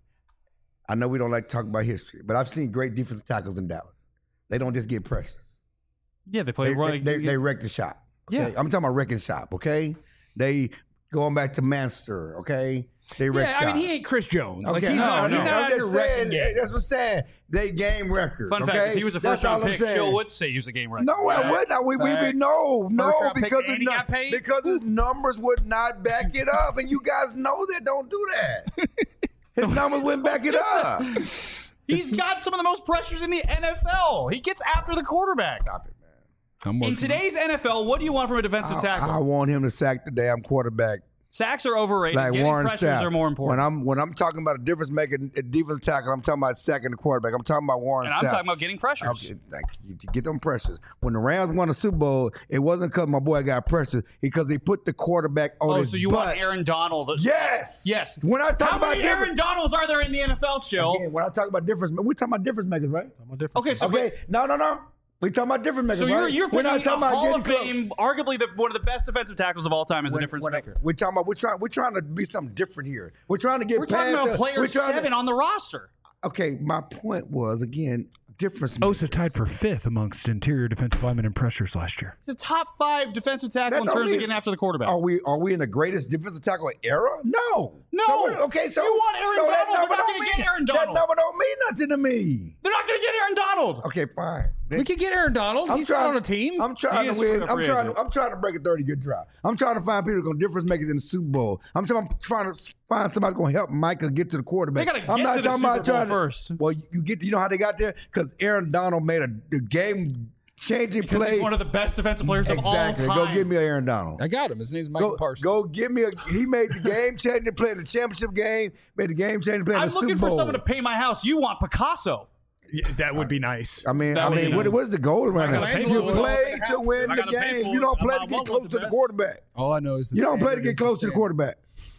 I know we don't like to talk about history, but I've seen great defensive tackles in Dallas. They don't just get pressures. Yeah, they play They, right. they, they, they wreck the shop. Okay? Yeah. I'm talking about wrecking shop, okay? They going back to Manster, okay? They wreck Yeah, shop. I mean, he ain't Chris Jones. Like, Okay, he's no, not, no, he's not I'm out just here wrecking saying, games. that's what I'm saying. They game records. Fun okay? fact: if he was a That's first round all I'm pick, saying. Joe would say he was a game wrecker. No, I would not. We, we, we Facts. no, no, First round pick because and his, he nu- got paid? because his numbers would not back it up, and you guys know that. Don't do that. His numbers wouldn't back it up. He's got some of the most pressures in the N F L. He gets after the quarterback. Stop it, man. I'm In working. today's N F L, what do you want from a defensive I, tackle? I want him to sack the damn quarterback. Sacks are overrated. Like Getting Warren pressures Sapp. are more When important. I'm when I'm talking about a difference making a defensive tackle, I'm talking about sacking the quarterback. I'm talking about Warren and I'm Sapp. talking about getting pressures. Okay, like, you, you get them pressures. When the Rams won the Super Bowl, it wasn't because my boy got pressures, because they put the quarterback on Oh, his so you butt. want Aaron Donald? Yes. Yes. When I talk How about many difference, Aaron Donalds are there in the N F L, Chill? again, when I talk about difference, we're talking about difference makers, right? I'm a different. Okay, so Okay, no, no, no. We talking about difference makers, So you're right? you're We're picking not talking a about Hall getting of close. Fame, arguably the, one of the best defensive tackles of all time, is a When- difference when I- maker. We're talking about we're trying we're trying to be something different here. We're trying to get We're past talking about the- player we're trying to- seven on the roster. Okay, my point was again difference. Osa maker. tied for fifth amongst interior defensive linemen in pressures last year. He's a top five defensive tackle That in don't terms of mean- getting after the quarterback. Are we are we in the greatest defensive tackle era? No. No. So we're- okay, so You want Aaron so that Donald. They're number not don't gonna get mean- Aaron That Donald. number don't mean nothing to me. They're not going to get Aaron Donald. Okay, fine. We could get Aaron Donald. I'm He's trying, not on a team. I'm trying He to is win. a I'm free trying. agent. To, I'm trying to break a thirty good drive. I'm trying to find people who are going to difference makers in the Super Bowl. I'm trying, I'm trying to find somebody going to help Micah get to the quarterback. They gotta I'm get not to the talking Super about Bowl trying to- first. Well, you, you get. You know how they got there? Because Aaron Donald made a the game changing Because play. he's one of the best defensive players exactly. of all time. Go give me a Aaron Donald. I got him. His name's Michael Go, Parsons. go give me a. He made the game changing play in the championship game. Made the game changing play in I'm the looking Super for Bowl. someone to pay my house. You want Picasso. Yeah, that would be nice. I mean, That I would mean, be what, nice. what's the goal right now? gotta pay You for it. play to win I the gotta pay game. for You it. don't play I to get want close the to the best. quarterback. All I know is the You don't play to standard get is the close to the standard. quarterback.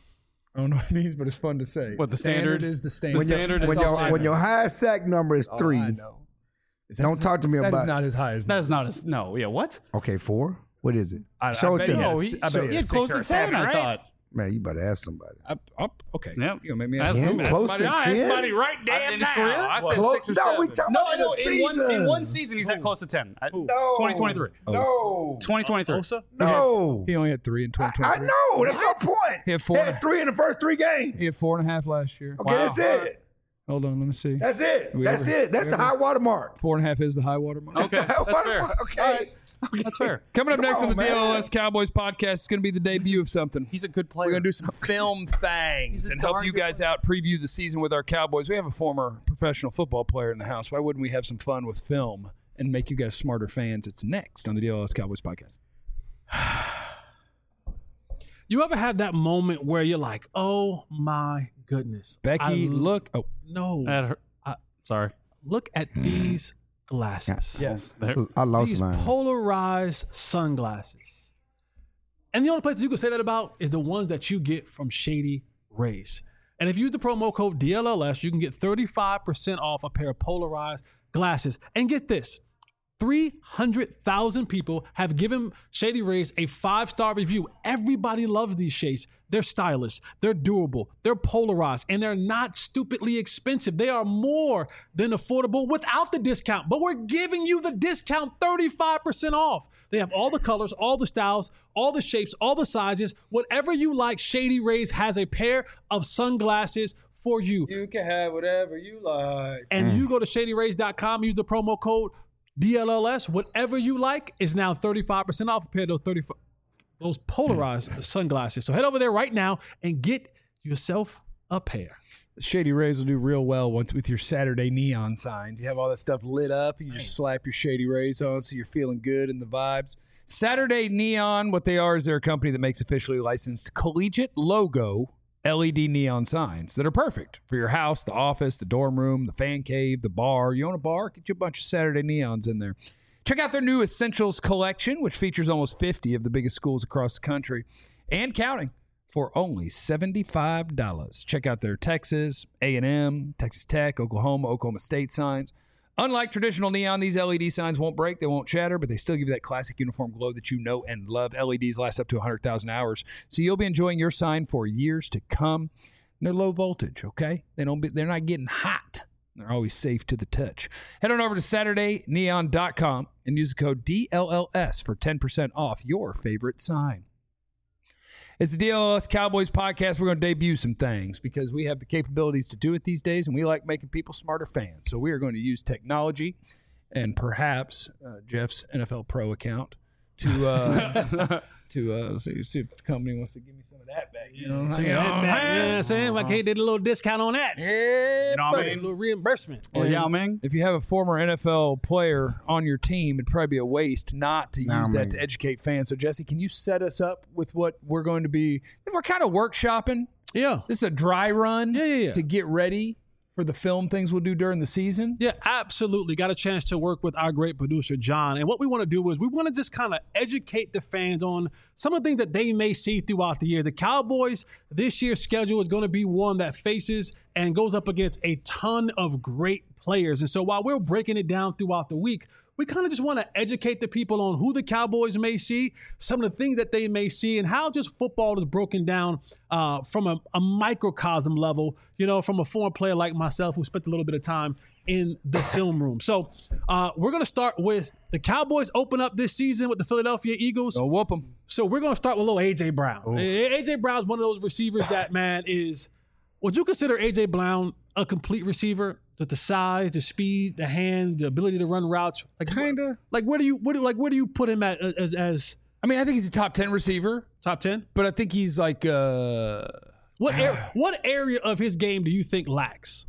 I don't know what it means, but it's fun to say. What, the standard? is the standard. When, your, standard when, is all your, I when know. your highest sack number is All three, I know. Is that- don't talk to me that about is not as high as That is not a no. Yeah, what? Okay, four? What is it? I, Show I it bet to he me. had a No, s- he- I bet so- he He had had six close or to a seven, ten, I right? thought. Man, you better ask somebody. Up, up, okay. Yep. You know, maybe That's ask him. him. Close Somebody, to I asked ten? somebody right Uh, damn in his now. career? I said Close- six or no, seven. we talking No, about no. the In one season. in one season, he's at close to ten. At No. twenty twenty-three. No. twenty twenty-three. Osa? No. He only had three in twenty I twenty-three. know. That's no point. He had four. He had three in the first three games. He had four and a half last year. Okay, that's it. Hold on, let me see. That's it. We That's ever- it. That's we the ever- high water mark. Four and a half is the high water mark. Okay, that's fair. Okay. That's fair. Coming up Come next on, on the man. D L L S Cowboys podcast, it's going to be the debut of something. He's a good player. We're going to do some film things He's a and help darn you good guys out, preview the season with our Cowboys. We have a former professional football player in the house. Why wouldn't we have some fun with film and make you guys smarter fans? It's next on the D L L S Cowboys podcast. You ever have that moment where you're like, oh my goodness. Becky, I- look. Oh, No. That hurt. I- Sorry. Look at these glasses. yes. I lost These mine. polarized sunglasses. And the only places you can say that about is the ones that you get from Shady Rays. And if you use the promo code D L L S, you can get thirty-five percent off a pair of polarized glasses. And get this, three hundred thousand people have given Shady Rays a five-star review. Everybody loves these shades. They're stylish, they're durable, they're polarized, and they're not stupidly expensive. They are more than affordable without the discount, but we're giving you the discount thirty-five percent off. They have all the colors, all the styles, all the shapes, all the sizes. Whatever you like, Shady Rays has a pair of sunglasses for you. You can have whatever you like. And you go to shady rays dot com, use the promo code D L L S. Whatever you like is now thirty-five percent off a pair of those thirty those polarized sunglasses. So head over there right now and get yourself a pair. Shady Rays will do real well once with your Saturday neon signs. You have all that stuff lit up. You just slap your Shady Rays on so you're feeling good in the vibes. Saturday Neon, what they are is they're a company that makes officially licensed collegiate logo L E D neon signs that are perfect for your house, the office, the dorm room, the fan cave, the bar. You own a bar? Get you a bunch of Saturday neons in there. Check out their new Essentials collection, which features almost fifty of the biggest schools across the country and counting for only seventy-five dollars. Check out their Texas, A and M, Texas Tech, Oklahoma, Oklahoma State signs. Unlike traditional neon, these L E D signs won't break, they won't shatter, but they still give you that classic uniform glow that you know and love. L E Ds last up to one hundred thousand hours, so you'll be enjoying your sign for years to come. And they're low voltage, okay? They don't be, they're not getting hot. They're always safe to the touch. Head on over to Saturday Neon dot com and use the code D L L S for ten percent off your favorite sign. It's the D L L S Cowboys podcast. We're going to debut some things because we have the capabilities to do it these days, and we like making people smarter fans. So we are going to use technology and perhaps uh, Jeff's N F L Pro account to uh, to uh, see, see if the company wants to give me some of that back. You know, So you you know know, what I'm that, saying? you know what I'm saying? Like, hey, did a little discount on that. Yeah, You know what I buddy. A little reimbursement. Or And Yao Ming. If you have a former N F L player on your team, it'd probably be a waste not to Nah, use that man. to educate fans. So, Jesse, can you set us up with what we're going to be? We're kind of workshopping. Yeah. This is a dry run Yeah, yeah, yeah. to get ready for the film things we'll do during the season. Yeah, absolutely. Got a chance to work with our great producer, John. And what we want to do is we want to just kind of educate the fans on some of the things that they may see throughout the year. The Cowboys, this year's schedule is going to be one that faces and goes up against a ton of great players. And so while we're breaking it down throughout the week, we kind of just want to educate the people on who the Cowboys may see, some of the things that they may see, and how just football is broken down uh, from a, a microcosm level, you know, from a former player like myself who spent a little bit of time in the film room. So uh, we're going to start with the Cowboys open up this season with the Philadelphia Eagles. So whoop them. So we're going to start with little A J. Brown. A J. Brown's one of those receivers that, man, is – would you consider A J. Brown a complete receiver? The, the size, the speed, the hand, the ability to run routes, like Kinda. Like where do you where do like where do you put him at as as I mean, I think he's a top ten receiver, top ten? but I think he's like uh What ar- what area of his game do you think lacks?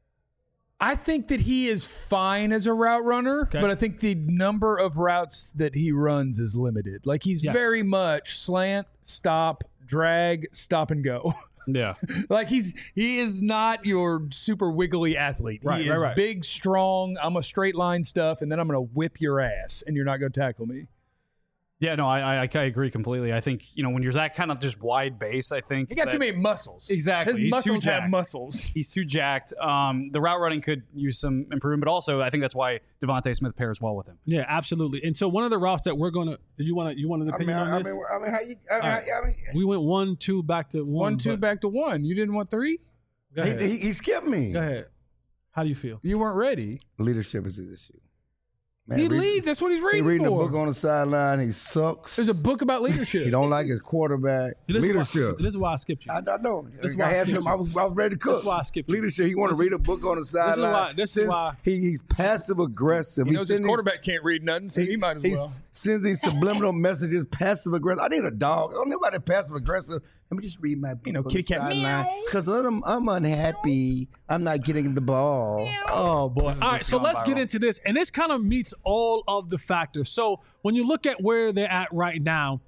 I think that he is fine as a route runner, Okay. but I think the number of routes that he runs is limited. Like he's Yes. very much slant, stop, drag, stop and go. Yeah. Like he's he is not your super wiggly athlete. Right, he right, is right. big, strong. I'm a straight line stuff, and then I'm gonna whip your ass, and you're not gonna tackle me. Yeah, no, I, I I agree completely. I think, you know, when you're that kind of just wide base, I think He got that- too many muscles. Exactly. His He's too muscles have jacked. muscles. He's too jacked. Um, the route running could use some improvement, but also I think that's why Devontae Smith pairs well with him. Yeah, absolutely. And so one of the routes that we're gonna did you want to you want an I mean, opinion I, I on this? mean, I mean, how you? I mean, All right. I mean We went one, two, back to one. One, two, but- back to one. You didn't want three? Go ahead. he, he, he skipped me. Go ahead. How do you feel? You weren't ready. Leadership is his issue. Man, he read- leads. That's what he's He reading reading for. a book on the sideline. He sucks. There's a book about leadership. He don't like his quarterback. See, this is why- Leadership. this is why I skipped you. I, I know. This is I, why I had skipped some, I, was, I was ready to cook. This is why I skipped you. Leadership. He want to This- read a book on the sideline. why- this is Since why- he, he's passive aggressive. He knows his sends these- quarterback can't read nothing, so he, might as he well. s- sends these subliminal messages, passive aggressive. I need a dog. I don't know about that passive aggressive. Let me just read my book You know, on kitty the cat, sideline meow. because I'm, I'm unhappy. I'm not getting the ball. Oh boy! All right, is so going let's get viral. into this, and this kind of meets all of the factors. So when you look at where they're at right now,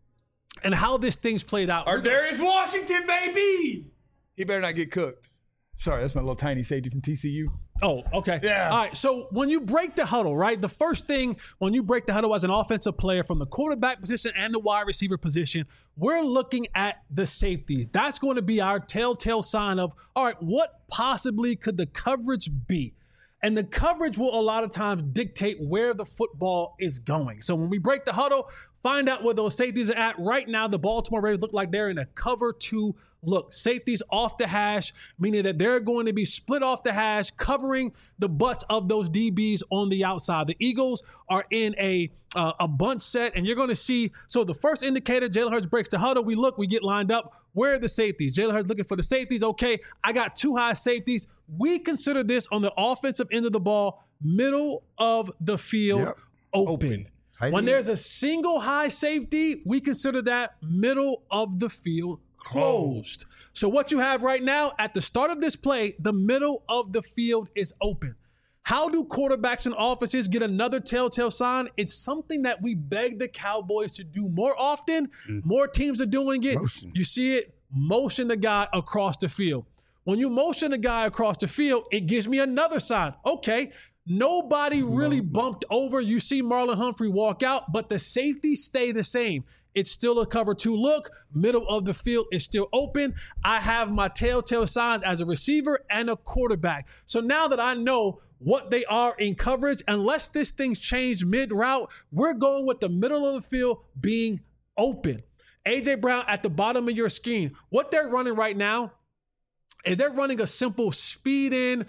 and how this thing's played out, Our we're gonna- Darius Washington, baby. He better not get cooked. Sorry, that's my little tiny safety from T C U. Oh, okay. Yeah. All right. So when you break the huddle, right, the first thing when you break the huddle as an offensive player from the quarterback position and the wide receiver position, we're looking at the safeties. That's going to be our telltale sign of, all right, what possibly could the coverage be? And the coverage will a lot of times dictate where the football is going. So when we break the huddle, find out where those safeties are at. Right now, the Baltimore Ravens look like they're in a cover two look. Safeties off the hash, meaning that they're going to be split off the hash, covering the butts of those D Bs on the outside. The Eagles are in a uh, a bunch set, and you're going to see. So the first indicator, Jalen Hurts breaks the huddle. We look, we get lined up. Where are the safeties? Jalen Hurts looking for the safeties. Okay, I got two high safeties. We consider this on the offensive end of the ball, middle of the field, Yep. open. Tight When end. there's a single high safety, we consider that middle of the field closed. So what you have right now at the start of this play, the middle of the field is open. How do quarterbacks and offenses get another telltale sign? It's something that we beg the Cowboys to do more often. More teams are doing it. Motion. You see it, motion the guy across the field. When you motion the guy across the field, it gives me another sign. Okay, nobody really bumped over. You see Marlon Humphrey walk out, but the safeties stay the same. It's still a cover two look. Middle of the field is still open. I have my telltale signs as a receiver and a quarterback. So now that I know what they are in coverage, unless this thing's changed mid-route, we're going with the middle of the field being open. A J Brown at the bottom of your scheme. What they're running right now is they're running a simple speed in,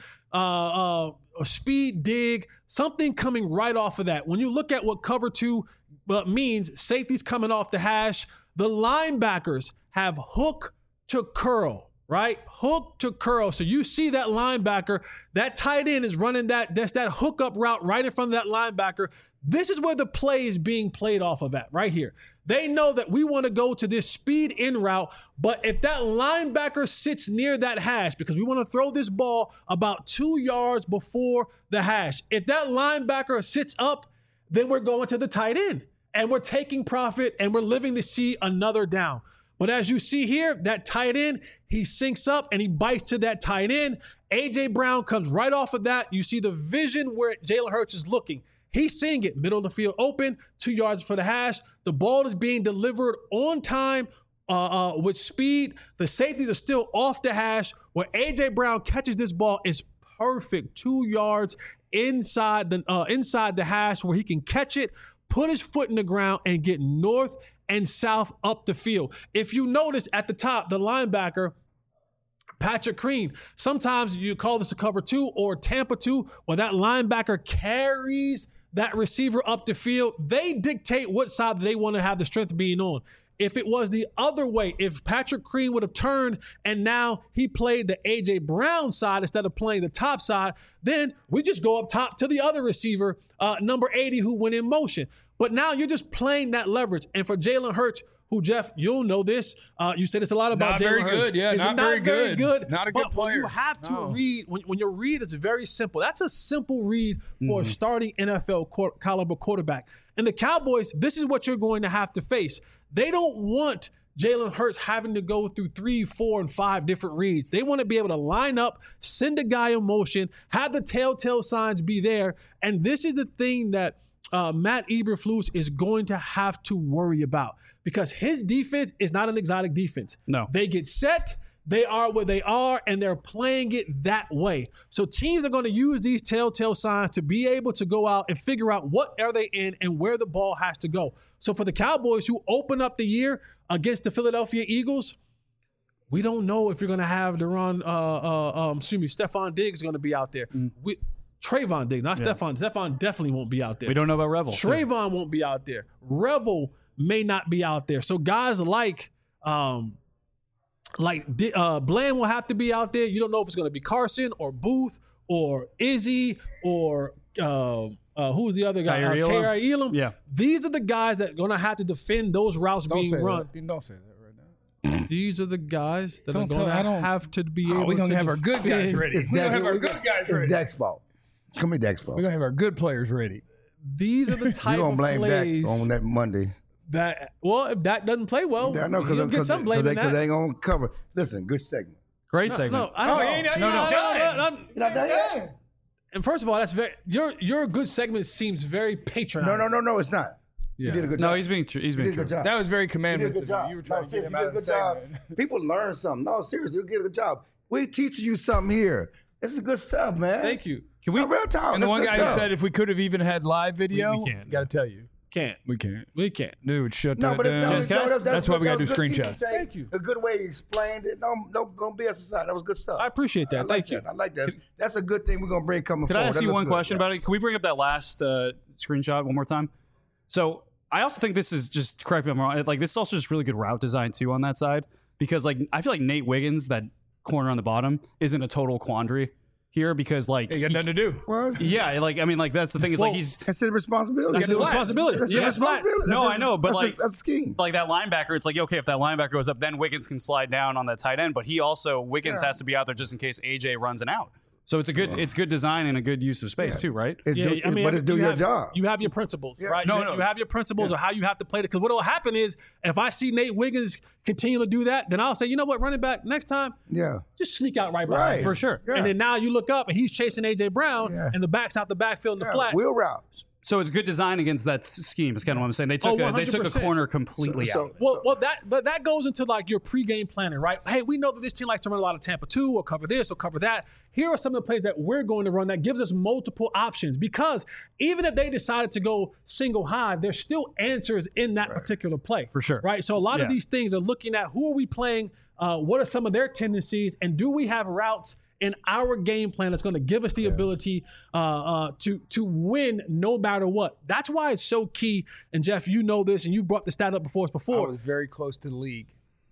uh, uh, a speed dig, something coming right off of that. When you look at what cover two uh, means, safety's coming off the hash. The linebackers have hook to curl, right? Hook to curl. So you see that linebacker, that tight end is running that, that's that hookup route right in front of that linebacker. This is where the play is being played off of at, right here. They know that we want to go to this speed in route, but if that linebacker sits near that hash, because we want to throw this ball about two yards before the hash, if that linebacker sits up, then we're going to the tight end and we're taking profit and we're living to see another down. But as you see here, that tight end, he sinks up and he bites to that tight end. A J Brown comes right off of that. You see the vision where Jalen Hurts is looking. He's seeing it, middle of the field open, two yards for the hash. The ball is being delivered on time uh, uh, with speed. The safeties are still off the hash. Where A J Brown catches this ball is perfect, two yards inside the uh, inside the hash where he can catch it, put his foot in the ground, and get north and south up the field. If you notice at the top, the linebacker, Patrick Crean, sometimes you call this a cover two or Tampa two, where that linebacker carries that receiver up the field. They dictate what side they want to have the strength being on. If it was the other way, if Patrick Crean would have turned and now he played the A J Brown side instead of playing the top side, then we just go up top to the other receiver, uh, number eighty, who went in motion. But now you're just playing that leverage. And for Jalen Hurts, who, Jeff, you'll know this. Uh, you said this a lot about Not Jalen very good. good, yeah, Is not not very very good. good. Not a good but when you player. have to No. read, when, when you read, it's very simple. That's a simple read for a starting N F L quar- caliber quarterback. And the Cowboys, this is what you're going to have to face. They don't want Jalen Hurts having to go through three, four, and five different reads. They want to be able to line up, send a guy in motion, have the telltale signs be there. And this is the thing that uh, Matt Eberflus is going to have to worry about, because his defense is not an exotic defense. No. They get set, they are where they are, and they're playing it that way. So teams are going to use these telltale signs to be able to go out and figure out what are they in and where the ball has to go. So for the Cowboys, who open up the year against the Philadelphia Eagles, we don't know if you're going to have Deron, uh, uh, um, excuse me, Stephon Diggs going to be out there. Mm. We, Trayvon Diggs, not yeah. Stephon. Stephon definitely won't be out there. We don't know about Revel. Trayvon too. won't be out there. Revel may not be out there. So guys like um, like uh, Bland will have to be out there. You don't know if it's going to be Carson or Booth or Izzy or uh, uh, who's the other guy? K R Uh, Elam. Yeah. These are the guys that are going to have to defend those routes don't being run. That. Don't say that. These are the guys that don't are going tell, to have to be oh, able we're gonna to have our good guys ready. It's we're going to have our we good got, guys it's ready. It's Dak's fault. It's going to be Dak's fault. We're going to have our good players ready. These are the type You're of gonna blame plays Dak on that Monday. That, well, if Dak doesn't play well, I know, he'll get some blame in they, that. they ain't going to cover. Listen, good segment. Great no, segment. No, I don't oh, know. Ain't, no, no, no, no, no, no, no, no, You're not done yet? And first of all, that's very your your good segment seems very patronizing. No, no, no, no, it's not. Yeah. You did a good job. No, he's being true. He's you being did a good true. job. That was very You did a commandments good of job. you. You were trying no, to get him you out did a of good the job. segment. People learn something. No, seriously, you did a good job. We teaching you something here. This is good stuff, man. Thank you. Can we? No, real talk. And the That's one good guy stuff. who said if we could have even had live video, We- we can't. got to tell you. Can't. We can't. We can't. Dude, shut No, that but it, down. no, Jazz, no, can I- that's, that's why we that gotta was do good teaching. screenshots. Say, Thank you. A good way you explained it. No, no, don't be aside. That was good stuff. I appreciate that. I like Thank you. that. I like that. That's a good thing we're gonna bring coming Could forward. I ask That you looks one good. question Yeah. about it? Can we bring up that last uh, screenshot one more time? So I also think this is just, correct me if I'm wrong, like this is also just really good route design too on that side, because like I feel like Nate Wiggins, that corner on the bottom, isn't a total quandary here, because like You got he- nothing to do. Well, yeah, like I mean, like that's the thing is Well, like he's that's his responsibility. That's his That's responsibility. That's Yeah, his responsibility. no, That's I know, but that's like- a, that's a scheme. like that linebacker. It's like okay, if that linebacker goes up, then Wiggins can slide down on that tight end, but he also Wiggins Yeah. has to be out there just in case A J runs an out. So it's a good, it's good design and a good use of space too, right? It's Yeah, do, I mean, but it's do you your have, job. You have your principles, Yeah. right? No, you, no. you have your principles of how you have to play it. Because what will happen is, if I see Nate Wiggins continue to do that, then I'll say, you know what, running back next time, yeah. just sneak out right behind Right. him. For sure. Yeah. And then now you look up and he's chasing A J Brown, Yeah. and the back's out the backfield in the yeah. flat. Wheel route. So it's good design against that s- scheme. Is kind of what I'm saying. They took Oh, a, they took a one hundred percent. corner completely So- out. so- Well, well, that but that goes into like your pregame planning, right? Hey, we know that this team likes to run a lot of Tampa two, or cover this, or cover that. Here are some of the plays that we're going to run that gives us multiple options. Because even if they decided to go single high, there's still answers in that particular play, For sure. right? So a lot of Yeah. these things are looking at who are we playing, uh, what are some of their tendencies, and do we have routes in our game plan that's going to give us the ability uh, uh, to to win no matter what. That's why it's so key. And Jeff, you know this, and you brought the stat up before us I before. was very close to the league.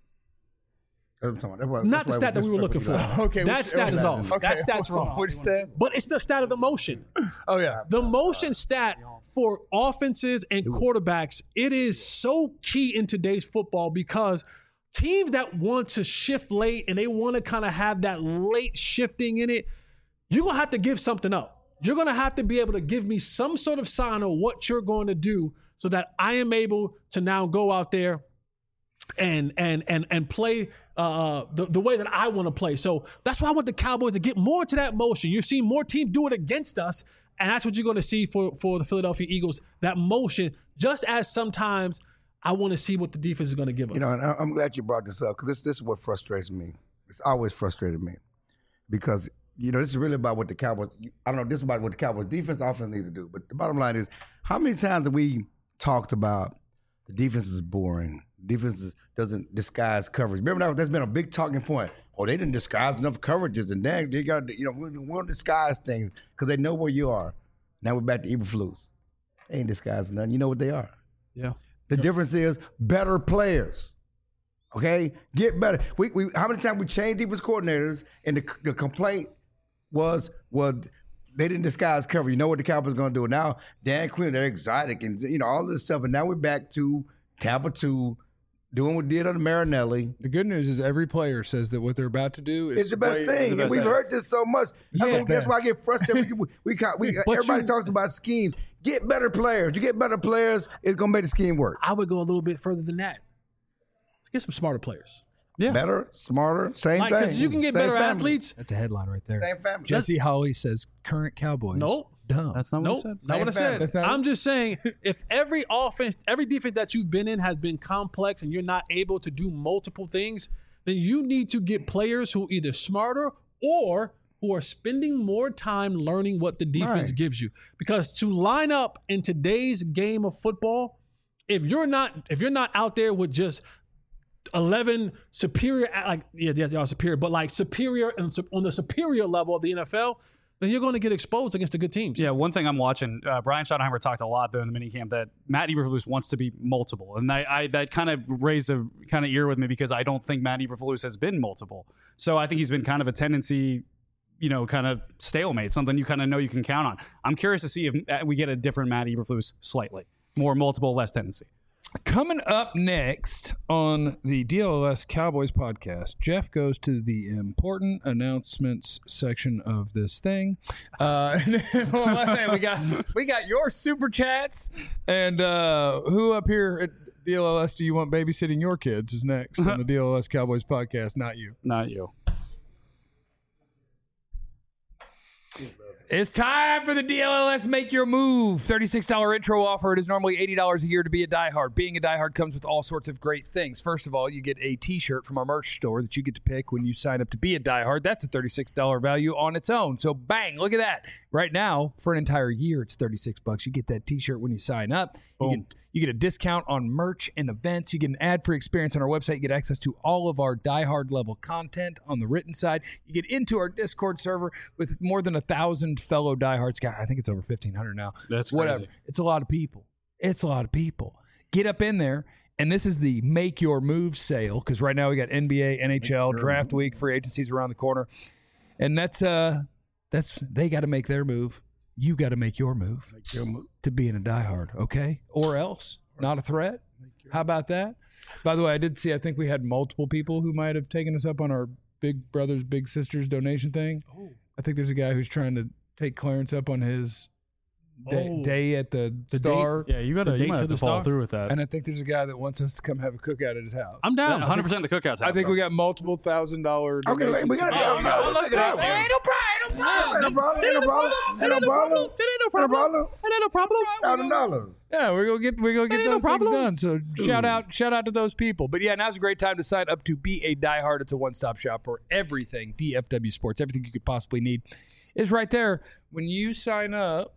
That's what I'm talking about. Not the That's stat why that we were this- looking for. Okay, that which- stat is okay. off. Okay. That stat's wrong. Which stat? But it's the stat of the motion. Oh, yeah. The motion stat for offenses and quarterbacks, it is so key in today's football, because teams that want to shift late and they want to kind of have that late shifting in it, you're going to have to give something up. You're going to have to be able to give me some sort of sign of what you're going to do so that I am able to now go out there and and and and play uh, the, the way that I want to play. So that's why I want the Cowboys to get more into that motion. You're seeing more teams do it against us, and that's what you're going to see for, for the Philadelphia Eagles, that motion, just as sometimes I want to see what the defense is going to give us. You know, and I- I'm glad you brought this up, because this, this is what frustrates me. It's always frustrated me, because, you know, this is really about what the Cowboys, I don't know, this is about what the Cowboys defense, offense need to do. But the bottom line is, how many times have we talked about the defense is boring, defense is, doesn't disguise coverage? Remember, that, that's been a big talking point. Oh, they didn't disguise enough coverages, and then they got, you know, we won't disguise things because they know where you are. Now we're back to Eberflus. They ain't disguising nothing. You know what they are. Yeah. The difference is better players. Okay, get better. We, we how many times we changed defense coordinators, and the, the complaint was was they didn't disguise cover. You know what the Cowboys going to do now? Dan Quinn, they're exotic, and you know all this stuff. And now we're back to Tampa two, doing what we did under Marinelli. The good news is every player says that what they're about to do is It's the best way- thing. the best and we've thing. heard this so much. That's, Yeah. what- that's why I get frustrated. we, we, we, we But everybody you- talks about schemes. Get better players. You get better players, it's going to make the scheme work. I would go a little bit further than that. Let's get some smarter players. Yeah. Better, smarter, same Like, thing. because you can get Same better family. athletes. That's a headline right there. Same family. Jesse Holley says current Cowboys. No. Dumb. That's not what Nope, I said. not what I Same family. said. That's not I'm just saying, if every offense, every defense that you've been in has been complex and you're not able to do multiple things, then you need to get players who are either smarter or who are spending more time learning what the defense Right. gives you. Because to line up in today's game of football, if you're not if you're not out there with just eleven superior, like yeah, yeah, they are superior, but like superior and sup- on the superior level of the N F L, then you're going to get exposed against the good teams. Yeah, one thing I'm watching, uh, Brian Schottenheimer talked a lot though in the minicamp that Matt Eberflus wants to be multiple, and I, I that kind of raised a kind of ear with me because I don't think Matt Eberflus has been multiple. So I think he's been kind of a tendency, you know, kind of stalemate, something you kind of know you can count on. I'm curious to see if uh, we get a different Matt Eberflus slightly more multiple, less tendency. Coming up next on the D L L S Cowboys podcast, Jeff goes to the important announcements section of this thing. Uh, we got we got your super chats, and uh, who up here at D L L S do you want babysitting your kids is next on the D L L S Cowboys podcast, not you. Not you. It's time for the D L L S Make Your Move thirty-six dollars intro offer. It is normally eighty dollars a year to be a diehard. Being a diehard comes with all sorts of great things. First of all, you get a t-shirt from our merch store that you get to pick when you sign up to be a diehard. That's a thirty-six dollars value on its own. So bang, look at that. Right now, for an entire year, it's thirty-six bucks. You get that t-shirt when you sign up. You get, you get a discount on merch and events. You get an ad-free experience on our website. You get access to all of our diehard level content on the written side. You get into our Discord server with more than a thousand fellow diehards. God, I think it's over fifteen hundred now. That's whatever. crazy. It's a lot of people. It's a lot of people. Get up in there. And this is the Make Your Move sale because right now we got N B A, N H L, draft week, free agencies around the corner. And that's uh that's they got to make their move. You got to make your move Make your move. to being a diehard, okay? Or else, not a threat. How about that? By the way, I did see, I think we had multiple people who might have taken us up on our Big Brothers, Big Sisters donation thing. Oh. I think there's a guy who's trying to take Clarence up on his day, Oh. day at the, The Star. Yeah, you gotta The you date might to have to the follow star? through with that. And I think there's a guy that wants us to come have a cookout at his house. I'm down. one hundred percent the cookouts. I think we got multiple thousand dollars. Okay, like, we got Oh, to no, let's check it out. go. Ain't no problem. Ain't no problem. Ain't no problem. Ain't no problem. Ain't no problem. no problem. Thousand dollars. Yeah, we're gonna get we're gonna get Ain't no those things problem. done. So shout out shout out to those people. But yeah, now's a great time to sign up to be a diehard. It's a one stop shop for everything D F W sports. Everything you could possibly need is right there when you sign up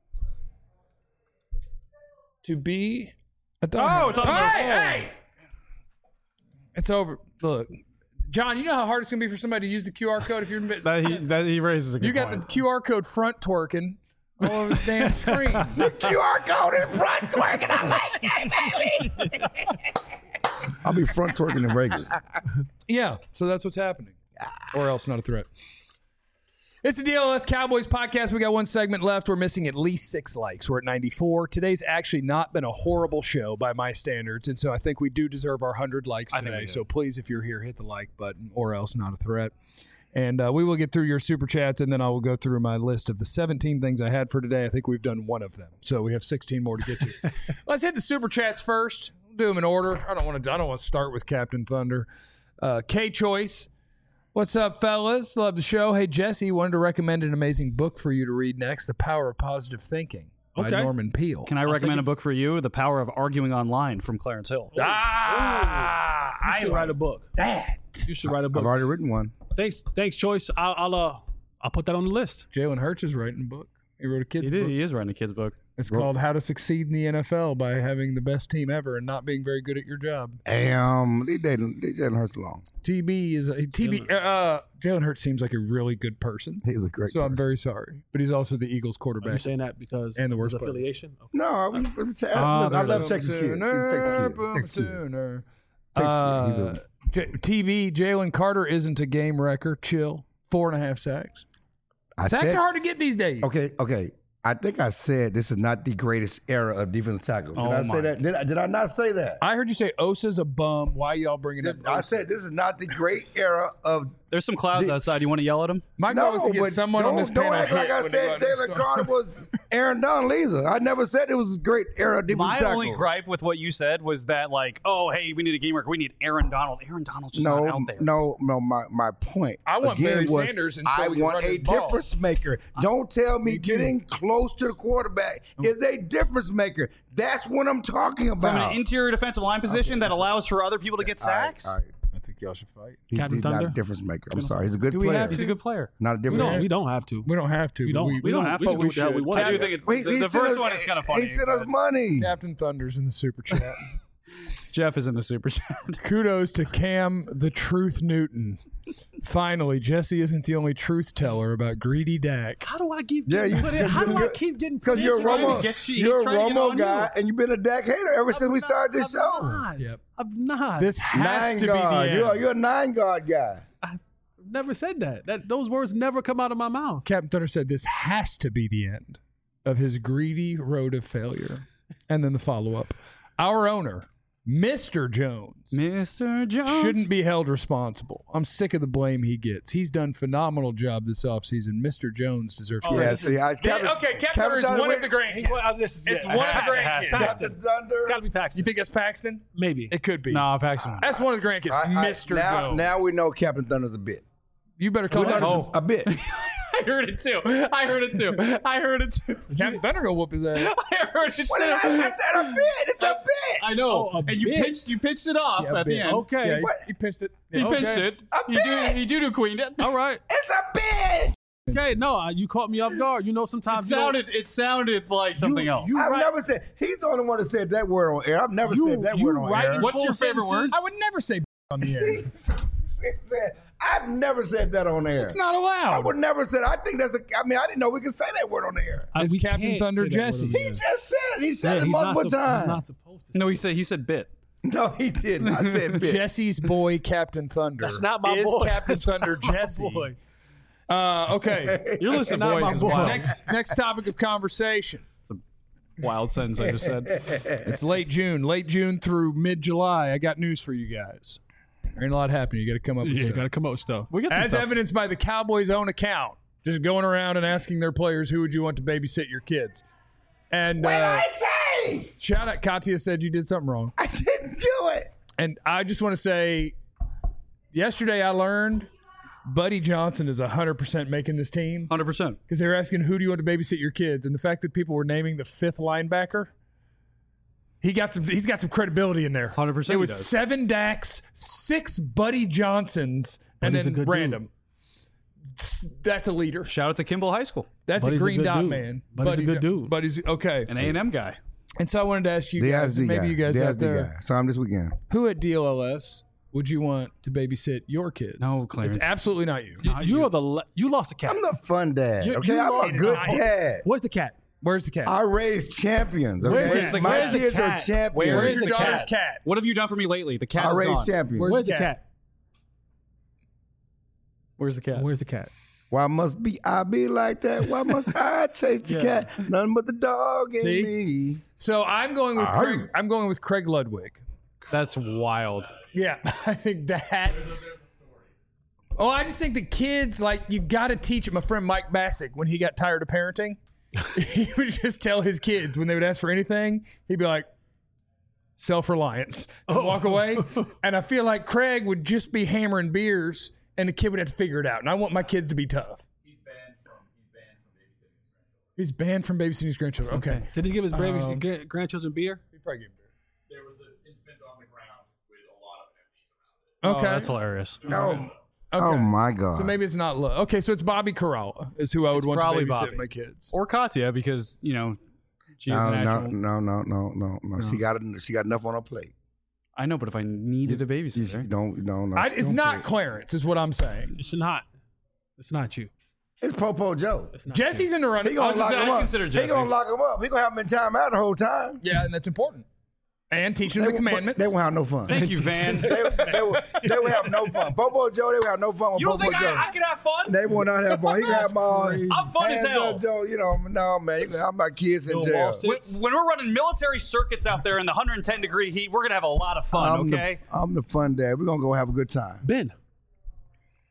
to be a diehard. Oh, it's on the hey, phone. hey! It's over. Look, John, you know how hard it's gonna be for somebody to use the Q R code if you're that he that he raises a good you got point. the Q R code front twerking all over the damn screen. The Q R code is front twerking. I like that, baby. I'll be front twerking in Vegas. Yeah, so that's what's happening. Or else not a threat. It's the D L L S Cowboys podcast. We got one segment left. We're missing at least six likes. We're at ninety-four. Today's actually not been a horrible show by my standards, and so I think we do deserve our one hundred likes I think today. we do. So please, if you're here, hit the like button, or else not a threat. And uh, we will get through your super chats, and then I will go through my list of the seventeen things I had for today. I think we've done one of them, so we have sixteen more to get to. Let's hit the super chats first. We'll do them in order. I don't want to. I don't want to start with Captain Thunder. Uh, K Choice. What's up, fellas? Love the show. Hey, Jesse, wanted to recommend an amazing book for you to read next, The Power of Positive Thinking by Okay. Norman Peale. Can I recommend a book for you? The Power of Arguing Online from Clarence Hill. Ah, You I should write a book. that. You should write a I've book. already written one. Thanks, thanks, Choice. I'll, I'll uh, I'll put that on the list. Jalen Hurts is writing a book. He wrote a kid's He did. book. He is writing a kid's book. It's called How to Succeed in the N F L by Having the Best Team Ever and Not Being Very Good at Your Job. Um, leave Jalen leave Jalen Hurts alone. T B is a, T B. Uh, Jalen Hurts seems like a really good person. He's a great So I'm person. very sorry, but he's also the Eagles Are you quarterback. saying that because And the of worst his player. affiliation? Okay. No, I, was, was a, Ah, listen, I love boom Texas kids. He's a sooner, Texas kid. boom Texas kid. sooner. Texas Uh, kid. He's a, J- T B, Jalen Carter isn't a game wrecker. Chill. Four and a half sacks. I Sacks said, are hard to get these days. okay, okay. I think I said this is not the greatest era of defensive tackle. Did Oh I my. say that? Did I, did I not say that? I heard you say Osa's a bum. Why y'all bringing This, up I Osa? said this is not the great era of There's some clouds The- outside. You want to yell at them? My goal is No, to get but someone don't, on this don't panel act like hit I when they go said out to the Jalen store. Carter was Aaron Donald either. I never said it was great Aaron defensive My tackle. only gripe with what you said was that, like, oh, hey, we need a game record. We need Aaron Donald. Aaron Donald's just no, not out there. no, no. My my point. I want again Barry was Sanders, and so I we can want run a this ball. difference maker. Don't tell me getting close to the quarterback is a difference maker. That's what I'm talking From about. an interior defensive line position Okay, that so- allows for other people to get All right, sacks. all right. I think y'all should fight. He's, Captain he's not a Thunder? difference maker. I'm sorry. He's a good Do we player. have He's a good player. Not a We difference don't. maker. We don't have to. We don't have to. We but don't- We, we don't have but to. We we can do what the hell we should. want. I do Captain- think it, Wait, the, he the sent first us- one is kind of funny. He sent us but money. Captain Thunder's in the super chat. Jeff is in the super chat. Kudos to Cam the Truth Newton. Finally, Jesse isn't the only truth teller about greedy Dak. How do I keep Yeah, getting you- put in? How do I you- keep getting put Because in? you're a trying to Romo, get you- he's you're a trying to get Romo on guy, you. and you've been a Dak hater ever since we started this I'm show. Not. Yep. I'm not. This has Nine to guard. be the You're, end. you're a nine guard guy. I've never said that. That those words never come out of my mouth. Captain Thunder said this has to be the end of his greedy road of failure. And then the follow-up. Our owner, Mister Jones, Mister Jones. shouldn't be held responsible. I'm sick of the blame he gets. He's done phenomenal job this offseason. Mister Jones deserves Yeah, credit. see, I, Captain, okay, Captain Thunder is Thunder one of went- the grandkids. It's one of the grandkids. Captain Thunder. It's got to be Paxton. You think that's Paxton? Maybe. It could be. No, Paxton. That's one of the grandkids, I- I- Mister now, Jones. now we know Captain Thunder's a bit. You better call We know him. this Oh, a bit. I heard it too. I heard it too. I heard it too. Captain Thunder go whoop his ass. I heard it What did I, too. I said a bit. It's a bit. I know. Oh, a and you bit. pitched. You pitched it off Yeah, at the bit. end. Okay. Yeah, he, What? he pinched it. He Yeah. pitched Okay. it. A He do. bit. He do do queened it. All right. It's a bit. Okay. No, uh, you caught me off guard. You know, It sometimes you don't- sounded. It sounded like something You- else. you- I've right. never said. He's the only one that said that word on air. I've never You- said that you word on writing air. What's full your favorite sentences. word? I would never say on the air. I've never said that on air. It's not I allowed. would never say. I think that's a. I mean, I didn't know we could say that word on the air. Uh, It's we Captain can't Thunder say that word Jesse. on the He air. just said. He said Yeah, it he's not multiple sup- He's not times. supposed to. No, he said. He said bit. No, he didn't. I said bit. Jesse's boy, Captain Thunder. That's not my is boy. Captain That's Thunder not my Jesse. boy. Uh, okay. Your list of Not my boys is boy. wild. next, next topic of conversation. Wild sentence I just said. It's late June, late June through mid July. I got news for you guys. There ain't a lot happening. You got to come up with Yeah, stuff. got to come up with stuff. We got some As stuff. evidenced by the Cowboys' own account, just going around and asking their players, who would you want to babysit your kids? And What did uh, I say? shout out, Katya said you did something wrong. I didn't do it. And I just want to say, yesterday I learned Buddy Johnson is one hundred percent making this team Hundred percent. because they were asking, who do you want to babysit your kids? And the fact that people were naming the fifth linebacker, he got some. He's got some credibility in there. one hundred percent It he was does. seven Daks, six Buddy Johnsons, and Buddy's a then good random. S- That's a leader. Shout out to Kimball High School, That's Buddy's a a green good dot dude. man. Buddy's a Buddy good Jo- dude. Buddy's okay. an A and M guy. And so I wanted to ask you The guys, S D and maybe guy. you guys the out S D there, guy. Saw him this weekend. who at D L L S would you want to babysit your kids? No, Clarence. It's absolutely not you. You, you are the le- you lost a cat. I'm the fun dad. You- Okay, you I'm lost a good it. dad. Where's the cat? Where's the cat? I raise champions. Okay, Where's the- my where's the kids are cat? champions. Where's the your daughter's cat? cat? What have you done for me lately? The cat I is raise gone. champions. Where's Where's the the cat? cat? Where's the cat? Where's the cat? Why must be I be like that? Why must I chase the Yeah. cat? Nothing but the dog in See? me. So I'm going with Arr. Craig, I'm going with Craig Ludwig. That's wild. Yeah, I think that. Oh, I just think the kids, like, you got to teach them. My friend Mike Bassick, when he got tired of parenting, he would just tell his kids when they would ask for anything, he'd be like, self-reliance, and walk away. And I feel like Craig would just be hammering beers, and the kid would have to figure it out. And I want my kids to be tough. He's banned from, he's banned from babysitting his grandchildren. He's banned from babysitting his grandchildren. Okay. Did he give his baby, Um, gra- grandchildren beer? He probably gave beer. There was an infant on the ground with a lot of empties around it. Okay. Oh, that's hilarious. No. Okay. Oh my God. So maybe it's not love. Okay, so it's Bobby Corrala is who I would It's want to probably babysit Bobby. my kids. Or Katya, because you know she is no, a no, natural. no, no, no, no, no. She got she got enough on her plate. I know, but if I needed a You babysitter, don't, no, no. I, she it's don't not play. Clarence, is what I'm saying. It's not. It's not you. It's Popo Joe. It's not Jesse's in the He running. gonna was lock just saying, him I up. consider He Jesse. gonna lock him up. He gonna have him in timeout the whole time. Yeah, and that's important. And teaching them the won't- but commandments. They won't have no fun. thank you, Van. they, they, will, they will have no fun. Popo Joe, they will have no fun with You don't Popo think Joe. I, I can have fun? They will not have fun. He can have them all. I'm fun as hands hell. up, Joe. You know, no man. You can have my kids in No jail. wall sit. When, when we're running military circuits out there in the one hundred ten degree heat, we're gonna have a lot of fun. I'm okay. The, I'm the fun dad. We're gonna go have a good time. Ben.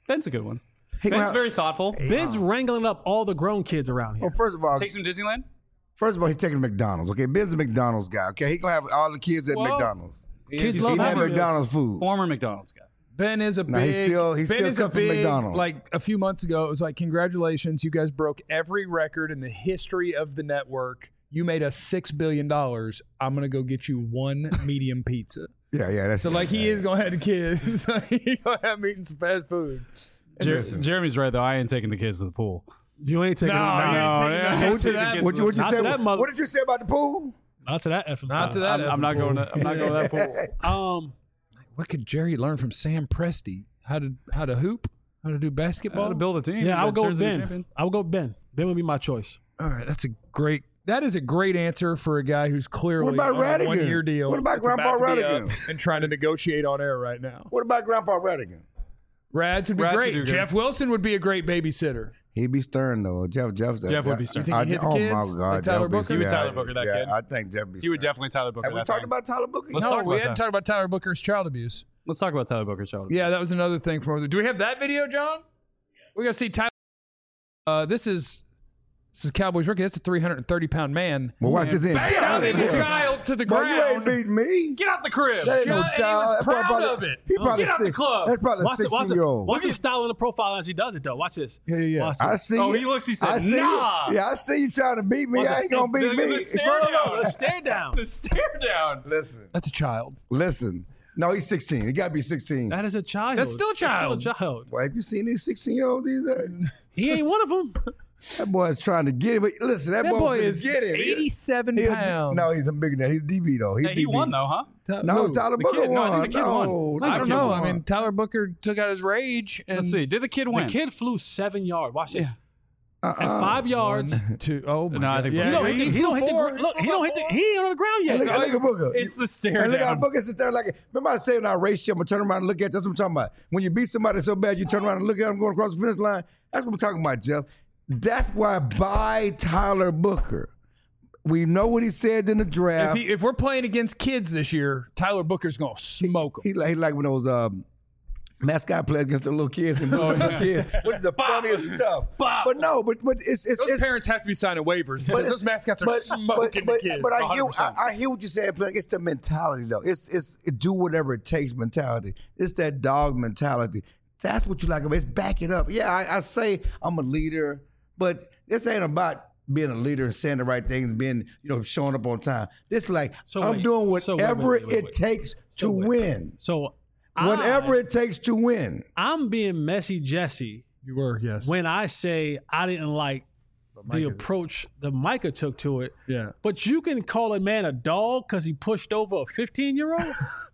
Ben's a good one. He Ben's gonna- very thoughtful. Ben's wrangling up all the grown kids around here. Well, first of all, Takes him to Disneyland. first of all, he's taking McDonald's. Okay, Ben's a McDonald's guy. Okay, he gonna have all the kids at Well, McDonald's. Kids He's love eating that Happy Meals. McDonald's food. Former McDonald's guy. Ben is a No, big. he's still- he's Ben still is a cut from big. McDonald's. Like a few months ago, it was like, congratulations, you guys broke every record in the history of the network. You made us six billion dollars. I'm gonna go get you one medium pizza. Yeah, yeah. That's So like he is gonna have the kids. He gonna have me eating some fast food. Jer- Listen. Jeremy's right though. I ain't taking the kids to the pool. You ain't taking No, it. you ain't No, taking yeah. that What to you- that. What, what you Not say? to that mother- What did you say about the pool? Not to that effing Not to pool. that. I'm, I'm not effing going pool. to. I'm not going to that pool. Um, What could Jerry learn from Sam Presti? How to how to hoop? How to do basketball? How to build a team. yeah, I would that go with turns into a Ben. champion. I would go with Ben. Ben would be my choice. All right, that's a great. That is a great answer for a guy who's clearly What about on a Radigan? one-year deal. What about that's Grandpa about to be Radigan? up and trying to negotiate on air right now? What about Grandpa Radigan? Rads would be Rads would great. do good. Jeff Wilson would be a great babysitter. He'd be stern though. Jeff, Jeff, Jeff would be stern. You think he'd hit the oh kids? my Like God, Tyler Jeff would be Booker? He would stern. Tyler Booker that yeah, kid. I think Jeff would be. He would stern. definitely Tyler Booker. Have we that talked thing. about Tyler Booker? Let's no, talk we about hadn't that. talked about Tyler Booker's child abuse. Let's talk about Tyler Booker's child. Yeah, that was another thing from. Do we have that video, John? We're gonna see Tyler. Uh, this is this is Cowboys rookie. That's a three hundred thirty pound man. Well, watch this in. Bam! And the child to the Boy, ground. you ain't beating me. Get out the crib. That ain't no Yeah, and he child. was That's proud probably- of it. He probably Get out the six- club. That's probably a Watch, it, watch, sixteen it, year old. watch him styling the profile as he does it, though. Watch this. Yeah, yeah, yeah. Watch I this. see. Oh, you. he looks. He said, I see. "Nah." You. Yeah, I see you trying to beat me. Watch I it. ain't gonna beat The- the- me. the stare No, no, no. down. The stare down. The stare down. Listen, That's a child. listen. No, he's sixteen. He got to be sixteen. That is a child. That's still a child. That's still a child. Boy, have you seen these sixteen year olds these days? He ain't one of them. That boy's trying to get him. But listen, that, That boy, boy finna is get him. He- eighty-seven he a D- pounds. No, he's a bigger than that. He's D B though. He's Hey, he D B. won though, huh? Ta- No, who? Tyler The Booker kid- no, I won. think the kid won. No, I I think don't the kid know. won. I mean, Tyler Booker took out his rage. And Let's see. Did the kid win? The kid flew seven yards. Watch this. Yeah. uh-uh. At five yards. One, two. Oh my No, I God. think yeah, He don't hit the. He don't hit the. four. gr- Look, he don't hit the. He ain't on the ground Hey, yet. look, at- look at Booker. It's the stare And look how down. Booker sits there like, remember I said in our race show, I'm going to turn around and look at you. That's what I'm talking about. When you beat somebody so bad, you turn around and look at them going across the finish line. That's what I'm talking about, Jeff. That's why buy Tyler Booker. We know what he said in the If, draft. he, if we're playing against kids this year, Tyler Booker's gonna smoke them. He like, he like when those um, mascot play against the little kids and little kids, which is the funniest stuff. But no, but but it's it's, Those it's parents have to be signing waivers because it's- those mascots are but- smoking but, the kids. But I one hear, hundred percent. I, I hear what you said, but it's the mentality though. It's it's it do whatever it takes mentality. It's that dog mentality. That's what you like about it. It's back it up. Yeah, I, I say I'm a leader, but this ain't about being a leader and saying the right things and being, you know, showing up on time. This like So I'm wait. doing So wait, whatever wait, wait, it wait. takes to So wait. win. So Whatever I, it takes to win. I'm being messy, Jesse, You were, yes. when I say I didn't like the Micah- approach that Micah took to it. Yeah. But you can call a man a dog because he pushed over a fifteen year old.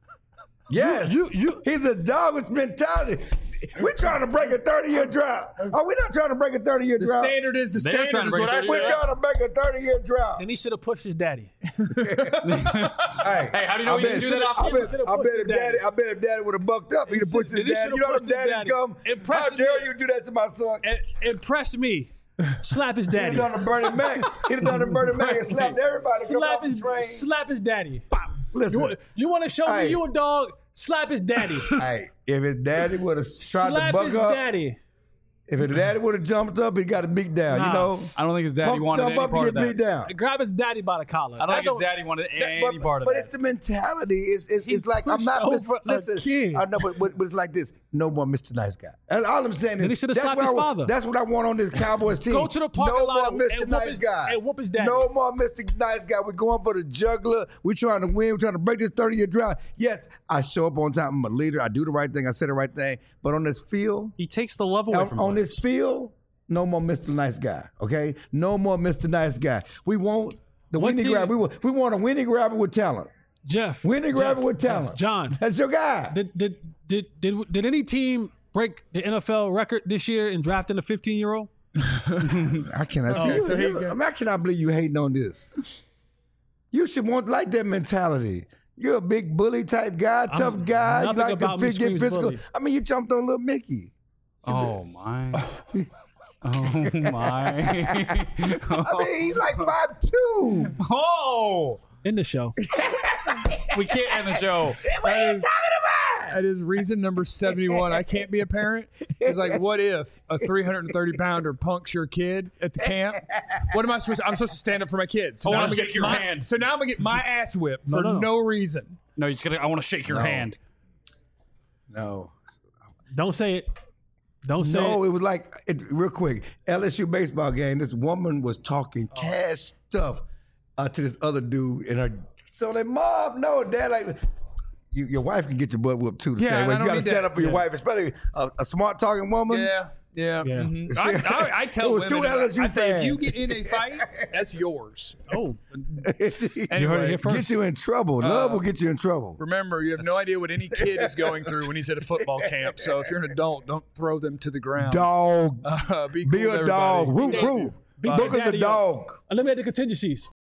Yes. You you He's a dog with mentality. We're trying to break a thirty-year drought. Are we not trying to break a thirty-year The drought? standard is the They're standard trying to is break what I it. We're said. trying to break a thirty-year drought. then he should have pushed his daddy. Hey, Hey, how do you know I he didn't bet- do that off I the- bet, should've I pushed bet his if daddy, I bet if daddy would have bucked up, he'd have pushed his Then he daddy. should've You know how pushed them his daddies daddy. come? How Impressive. dare you do that to my son? And impress me. Slap his He'd daddy. have done a Bernie Mac. He'd have done a Bernie Mac and slapped everybody. Come Slap off the his train. slap his daddy. Listen, You, you want to show Hey. me you a dog? Slap his daddy. hey, if his daddy would have tried to Slap buck his up, daddy. if his daddy would have jumped up, he got a beat down. Nah. You know, I don't think his daddy Pump- wanted jump any up to part of get that. beat down. Grab his daddy by the collar. I don't think That's his daddy wanted any but, part of but that. it's the mentality. It's it's, He it's like I'm pushed not mis- over a listen. kid. I know, but, but but it's like this. No more Mister Nice Guy. And all I'm saying Then he is should've that's slapped what his I want- father. That's what I want on this Cowboys team. Go to the parking no lot more and- Mister and whoop Nice his- Guy. and whoop his daddy. No more Mister Nice Guy. We're going for the juggler. We're trying to win. We're trying to break this thirty-year drought. Yes, I show up on time. I'm a leader. I do the right thing. I say the right thing. But on this field, He takes the love away on, from on players. this field, no more Mister Nice Guy. Okay, no more Mister Nice Guy. We want the What winning team- grabber. We want, we want a winning grabber with talent. Jeff. Winning Jeff, grabber with Jeff, talent. John. That's your guy. Did did did did did any team break the N F L record this year in drafting a fifteen year old? I cannot see Okay, you. so here you- you go. I mean, I cannot believe you hating on this. You should want like that mentality. You're a big bully type guy, tough guy. You nothing like to about me fit- get screams physical. bully. I mean, you jumped on little Mickey. Oh my. Oh my. I mean, he's like five two. Oh. In the show. We can't end the show. What are you talking about? That is reason number seventy-one. I can't be a parent. It's like, what if a three hundred thirty pounder punks your kid at the camp? What am I supposed to, I'm supposed to stand up for my kids. So I now wanna I'm gonna shake get your my, hand. So now I'm going to get my ass whipped No, for no, no, no. reason. No, you just gotta. I want to shake your No. hand. No. Don't say it. Don't say No, it. it was like, it, real quick, L S U baseball game, this woman was talking Oh. cash stuff uh, to this other dude. And her, so like, Mom, no, Dad, like, you, your wife can get your butt whooped too the Yeah, same and way. I You don't got to need stand that. up for your Yeah. wife, especially a, a smart talking woman. Yeah. Yeah. Yeah. mhm. I, I, I tell It was two women, L S U I say, if fans. you get in a fight, that's yours. Oh, Get you heard it here first. you in trouble. Love Uh, will get you in trouble. Remember, you have no idea what any kid is going through when he's at a football camp. So if you're an adult, don't throw them to the ground. Dog. Uh, be cool Be with a dog. everybody. Root, root. Big Booker's a Daddy, dog. Eliminate the contingencies.